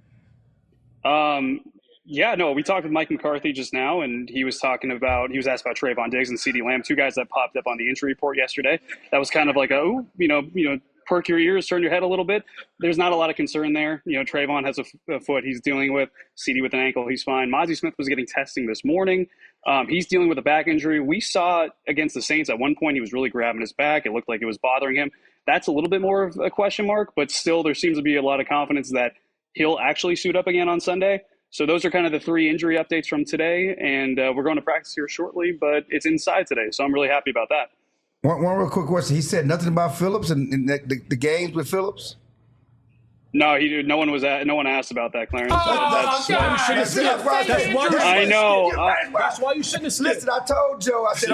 Yeah, no, we talked with Mike McCarthy just now, and he was asked about Trayvon Diggs and CeeDee Lamb, two guys that popped up on the injury report yesterday. That was kind of like perk your ears, turn your head a little bit. There's not a lot of concern there. Trayvon has a foot he's dealing with. CeeDee with an ankle, he's fine. Mozzie Smith was getting testing this morning. He's dealing with a back injury. We saw against the Saints at one point he was really grabbing his back. It looked like it was bothering him. That's a little bit more of a question mark, but still there seems to be a lot of confidence that he'll actually suit up again on Sunday. So those are kind of the three injury updates from today, and we're going to practice here shortly, but it's inside today, so I'm really happy about that. One real quick question. He said nothing about Phillips and the games with Phillips? No, he did. No one asked about that, Clarence. Oh, God. That's why you shouldn't have slipped. Listen, I told Joe. I said,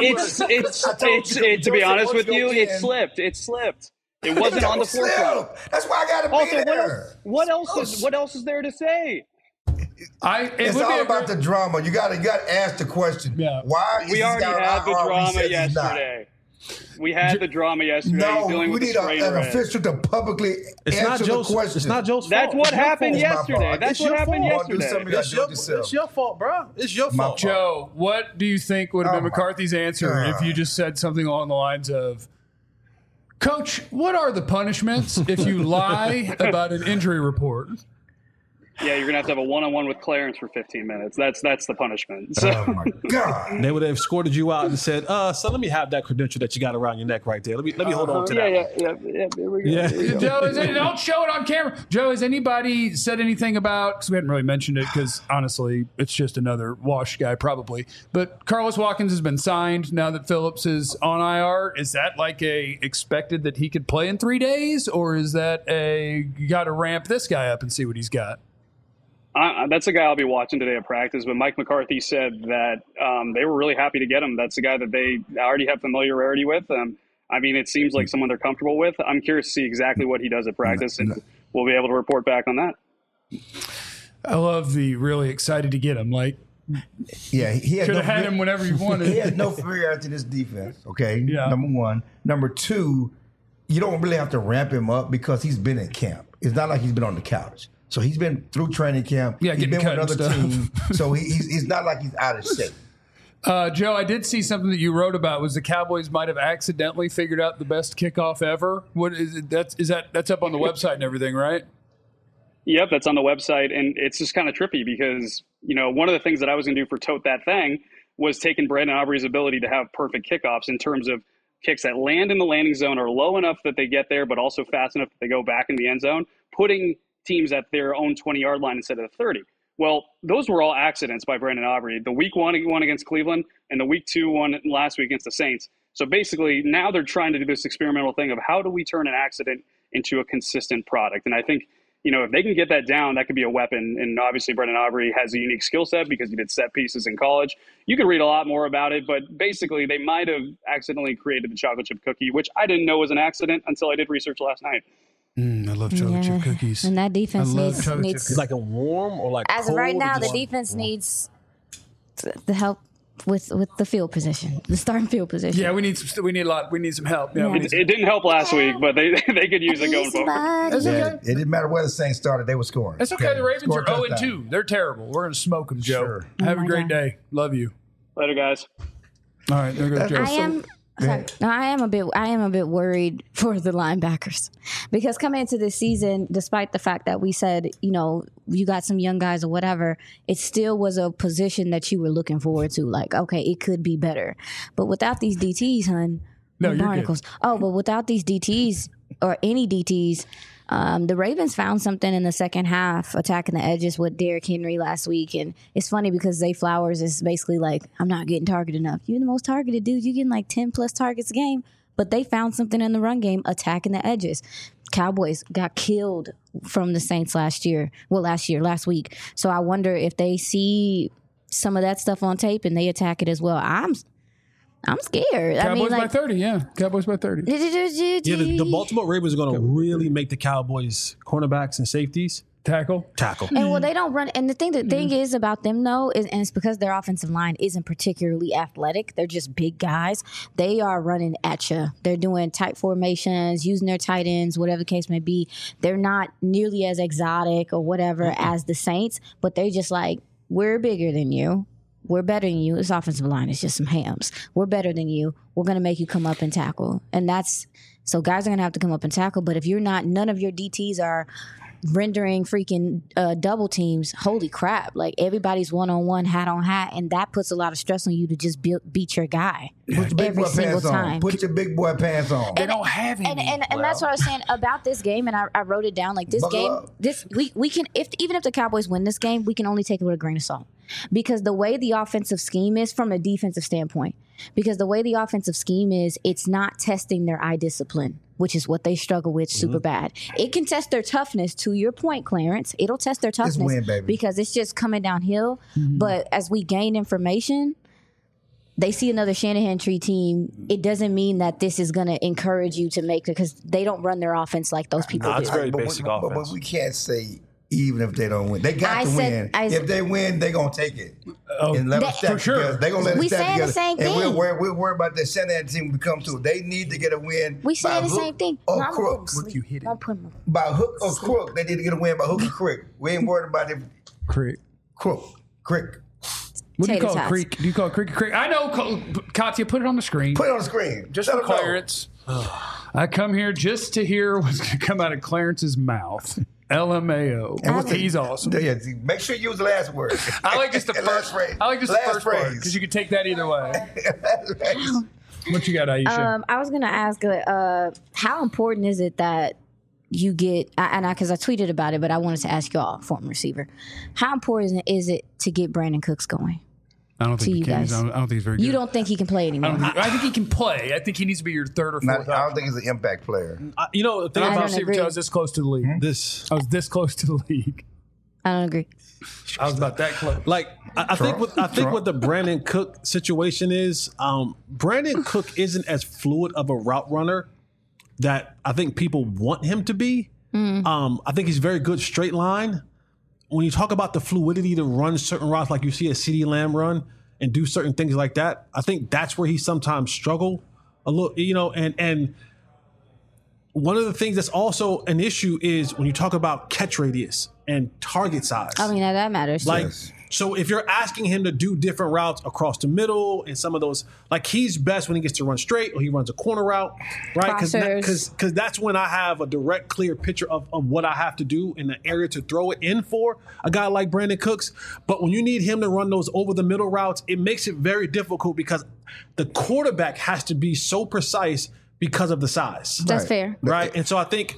To be honest with you, it slipped. It slipped. It wasn't on the forefront. That's why I got to be there. What else is there to say? It's all about the drama. You got to ask the question. Yeah. Why? We already had the drama yesterday. We had the drama yesterday. No, dealing we with need an official to publicly answer the question. It's not Joe's fault. That's what happened It's my fault. yesterday. That's what happened yesterday. It's your fault, bro. It's your fault. Joe, what do you think would have been McCarthy's answer if you just said something along the lines of, Coach, what are the punishments if you lie about an injury report? Yeah, you're gonna have a one-on-one with Clarence for 15 minutes. That's the punishment. So. Oh my God! They would have escorted you out and said, "So let me have that credential that you got around your neck right there. Let me hold on to that." Yeah. There we go. Yeah. Joe, don't show it on camera. Joe, has anybody said anything about? Because we hadn't really mentioned it. Because honestly, it's just another wash guy probably. But Carlos Watkins has been signed now that Phillips is on IR. Is that like expected that he could play in 3 days, or is that you got to ramp this guy up and see what he's got? That's a guy I'll be watching today at practice. But Mike McCarthy said that they were really happy to get him. That's a guy that they already have familiarity with. It seems like someone they're comfortable with. I'm curious to see exactly what he does at practice, and we'll be able to report back on that. I love the really excited to get him. Like, yeah, he could have had him whenever you wanted. He has no familiarity in this defense. Okay, yeah. Number one. Number two, you don't really have to ramp him up because he's been in camp. It's not like he's been on the couch. So he's been through training camp. Yeah, he's been with another stuff. team. So he's not like he's out of shape. Joe, I did see something that you wrote about was the Cowboys might have accidentally figured out the best kickoff ever. What is it? That's up on the website and everything, right? Yep, that's on the website, and it's just kind of trippy because one of the things that I was going to do for Tote That Thing was taking Brandon Aubrey's ability to have perfect kickoffs in terms of kicks that land in the landing zone are low enough that they get there, but also fast enough that they go back in the end zone, putting teams at their own 20-yard line instead of the 30. Well, those were all accidents by Brandon Aubrey. The week one against Cleveland and the week two one last week against the Saints. So basically now they're trying to do this experimental thing of how do we turn an accident into a consistent product? And I think, if they can get that down, that could be a weapon. And obviously Brandon Aubrey has a unique skill set because he did set pieces in college. You can read a lot more about it, but basically they might have accidentally created the chocolate chip cookie, which I didn't know was an accident until I did research last night. I love chocolate chip cookies. And that defense needs It's like a warm or like as cold of right now, the warm? defense needs the help with the field position, the starting field position. Yeah, we need some help. Yeah, Yeah. It didn't help last week, but they could use it going forward. That's Yeah, okay. it didn't matter where the Saints started; they were scoring. That's okay. The Ravens Score are a 0-2. They're terrible. We're going to smoke them, Joe. Sure. Have Oh a my great God. day. Love you. Later, guys. All right, there goes Joe. I am a bit worried for the linebackers because coming into this season, despite the fact that we said, you got some young guys or whatever, it still was a position that you were looking forward to. Like, okay, it could be better. But without these DTs, hun, No, you're barnacles. But without these DTs or any DTs, the Ravens found something in the second half attacking the edges with Derrick Henry last week. And it's funny because Zay Flowers is basically like, I'm not getting targeted enough. You're the most targeted dude. You're getting like 10 plus targets a game. But they found something in the run game attacking the edges. Cowboys got killed from the Saints last week. So I wonder if they see some of that stuff on tape and they attack it as well. I'm scared. Cowboys by 30, yeah. Cowboys by 30. Yeah, the Baltimore Ravens are going to really make the Cowboys cornerbacks and safeties Tackle. And well, they don't run. And the thing is about them though, and it's because their offensive line isn't particularly athletic. They're just big guys. They are running at you. They're doing tight formations, using their tight ends, whatever the case may be. They're not nearly as exotic or whatever as the Saints, but they're just like, we're bigger than you. We're better than you. This offensive line is just some hams. We're better than you. We're going to make you come up and tackle. And so guys are going to have to come up and tackle. But if you're not, none of your DTs are rendering freaking double teams, holy crap. Like everybody's one-on-one, hat on hat. And that puts a lot of stress on you to just beat your guy Put your big every boy single pants time. on. Put your big boy pants on. They don't have any. And that's what I was saying about this game, and I wrote it down. Like this Buckle game, up. we can even if the Cowboys win this game, we can only take it with a grain of salt because the way the offensive scheme is from a defensive standpoint, because the way the offensive scheme is, it's not testing their eye discipline, which is what they struggle with super bad. It can test their toughness. To your point, Clarence, it'll test their toughness win, baby. because it's just coming downhill. But as we gain information, they see another Shanahan tree team. It doesn't mean that this is going to encourage you to make it because they don't run their offense like those people do. it's very basic offense. But we can't say even if they don't win. They got to win. If they win, they're going to take it. And let us stack for sure. together. They're going to let us We stack saying the together. same And thing. we're worried about the Shanahan team when we come to it. They need to get a win. We say by the hook same thing. or No, I'm crook. gonna sleep. you hit it. I'm putting my- By hook or crook. They need to get a win by hook or crook. We ain't worried about it. Crick. Crook. Crick. What do you Tater call it? tots. Creek? Do you call it creek? Creek? I know, Katya, put it on the screen. Put it on the screen. Just Let for them know. Clarence. I come here just to hear what's going to come out of Clarence's mouth. LMAO. And what's He's awesome. Yeah, make sure you use the last word. I like just the Last first phrase. I like just Last the first part phrase. because you can take that either way. Last phrase. What you got, Aisha? I was going to ask, how important is it that you get, because I tweeted about it, but I wanted to ask y'all, former receiver, how important is it to get Brandon Cooks going? I don't to think he you can. guys. I don't think he's very good. You don't think he can play anymore? I think he can play. I think he needs to be your third or fourth. I don't think he's an impact player. You know, the thing I about don't agree. I was this close to the league. this, I was this close to the league. I don't agree. I was about that close. like, I think what the Brandon Cook situation is, Brandon Cook isn't as fluid of a route runner that I think people want him to be. I think he's very good straight line. When you talk about the fluidity to run certain routes, like you see a CeeDee Lamb run and do certain things like that, I think that's where he sometimes struggle a little, and one of the things that's also an issue is when you talk about catch radius and target size. I mean, that matters. Like, Yes. so if you're asking him to do different routes across the middle and some of those, like he's best when he gets to run straight or he runs a corner route, right? Crossers. Because that's when I have a direct, clear picture of what I have to do in the area to throw it in for a guy like Brandon Cooks. But when you need him to run those over the middle routes, it makes it very difficult because the quarterback has to be so precise because of the size. That's Right. fair. Right. And so I think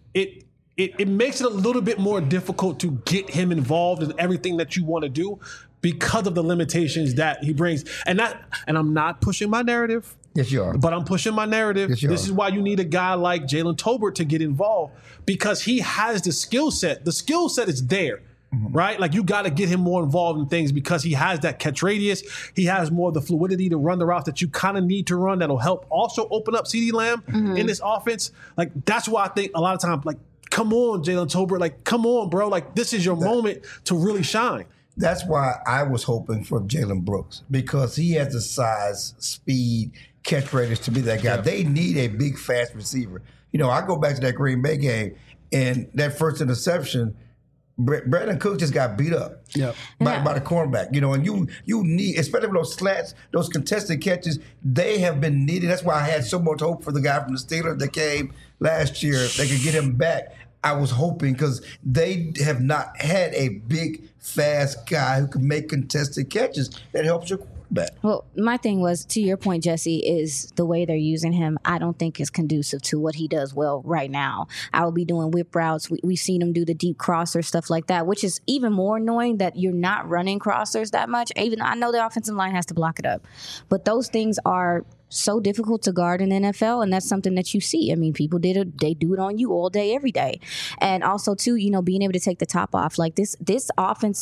it makes it a little bit more difficult to get him involved in everything that you want to do because of the limitations that he brings. And I'm not pushing my narrative, Yes, you are. but I'm pushing my narrative. Yes, you This are. is why you need a guy like Jalen Tolbert to get involved because he has the skill set. The skill set is there. Right? Like you got to get him more involved in things because he has that catch radius. He has more of the fluidity to run the routes that you kind of need to run that'll help also open up CeeDee Lamb in this offense. Like that's why I think a lot of times, like, come on, Jalen Tolbert, like, come on, bro. Like this is your moment to really shine. That's why I was hoping for Jalen Brooks because he has the size, speed, catch radius to be that guy. They need a big, fast receiver. I go back to that Green Bay game and that first interception, Brandon Cook just got beat up by the cornerback. And you need, especially with those slants, those contested catches, they have been needed. That's why I had so much hope for the guy from the Steelers that came last year. They could get him back. I was hoping because they have not had a big, fast guy who can make contested catches that helps your quarterback. Well, my thing was, to your point, Jesse, is the way they're using him, I don't think is conducive to what he does well right now. I will be doing whip routes. We've seen him do the deep crosser, stuff like that, which is even more annoying that you're not running crossers that much, even though I know the offensive line has to block it up. But those things are so difficult to guard in the NFL, and that's something that you see. I mean, people they do it on you all day, every day. And also, too, being able to take the top off. Like this offense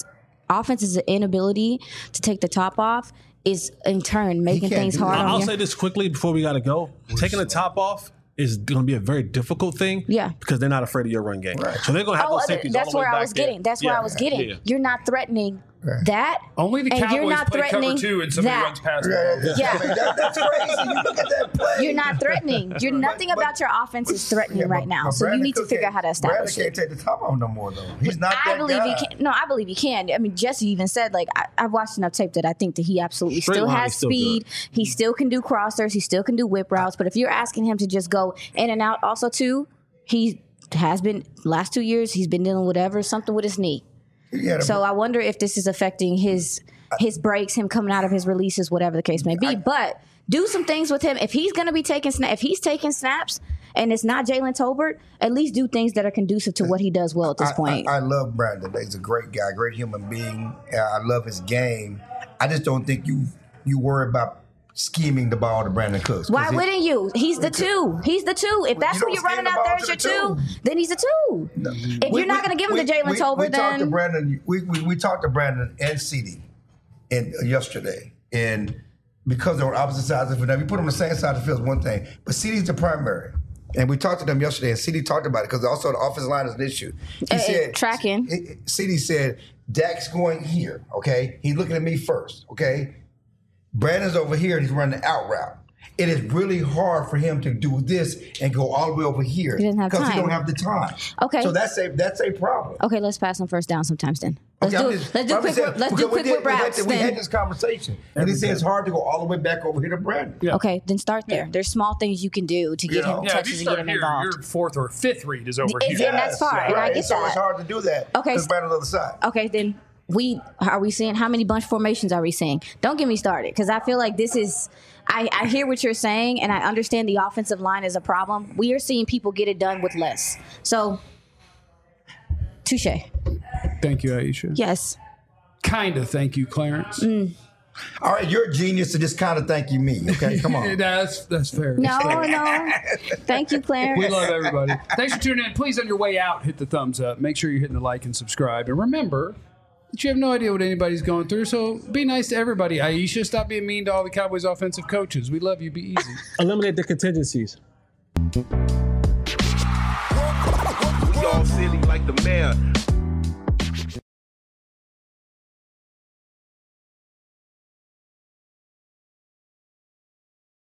offense's inability to take the top off is in turn making can't things do hard that. on I'll you. say this quickly before we got to go. Taking the top off is going to be a very difficult thing. Yeah. Because they're not afraid of your run game. So they're going to have those safeties that's all the way where I back was there. getting. That's where I was getting. Yeah. You're not threatening that. Only the and you're Cowboys not play cover threatening 2 and somebody that. runs past Yeah, them. Yeah. I mean, that's crazy. You look at that play. You're not threatening. You're nothing about your offense is threatening right now. So you need to figure out how to establish Brandon it. can't take the top off no more, though. He's not that I believe guy. he can. No, I believe he can. I mean, Jesse even said, like, I've watched enough tape that I think that he absolutely Straight still line, has he's still speed. good. He still can do crossers. He still can do whip routes. But if you're asking him to just go in and out, also too, he has been last 2 years. He's been dealing with something with his knee. Yeah, So I wonder if this is affecting his breaks, him coming out of his releases, whatever the case may be. But do some things with him. If he's going to be taking if he's taking snaps and it's not Jalen Tolbert, at least do things that are conducive to what he does well at this point. I love Brandon. He's a great guy, great human being. I love his game. I just don't think you worry about scheming the ball to Brandon Cooks. Why wouldn't you? He's the two. He's the two. If that's you who you're don't running scheme the out there ball as your to the two, then he's a two. If you're not going to give him to Jalen Tolbert, we talked to then Brandon. We talked to Brandon and CeeDee yesterday, and because they're on opposite sides of the field, we put them on the same side of the field is one thing, but CeeDee's the primary. And we talked to them yesterday, and CeeDee talked about it because also the offensive line is an issue. He said tracking. CeeDee said Dak's going here. Okay, he's looking at me first. Okay, Brandon's over here and he's running the out route. It is really hard for him to do this and go all the way over here He doesn't have because he time. don't have the time. Okay. So that's a problem. okay, let's pass him first down sometimes then. Let's Okay, do quick whip routes we had then. this conversation, and he said it's hard to go all the way back over here to Brandon. Yeah. Okay, then start there. There's small things you can do to get him Yeah, if you touches and get start him here, involved. your 4th or 5th read is over Is here. it? That's fine, and I get So it's that. hard to do that. Okay, because Brandon's on the other side. Okay, then are we seeing how many bunch formations are we seeing? Don't get me started because I feel like this is. I hear what you're saying and I understand the offensive line is a problem. We are seeing people get it done with less. So, touche. Thank you, Aisha. Yes. Kind of thank you, Clarence. All right, you're a genius to just kind of thank you me. Okay, come on. That's fair. No. Thank you, Clarence. We love everybody. Thanks for tuning in. Please, on your way out, hit the thumbs up. Make sure you're hitting the like and subscribe. And remember that you have no idea what anybody's going through, so be nice to everybody. Aisha, stop being mean to all the Cowboys offensive coaches. We love you. Be easy. Eliminate the contingencies. We all silly like the mayor.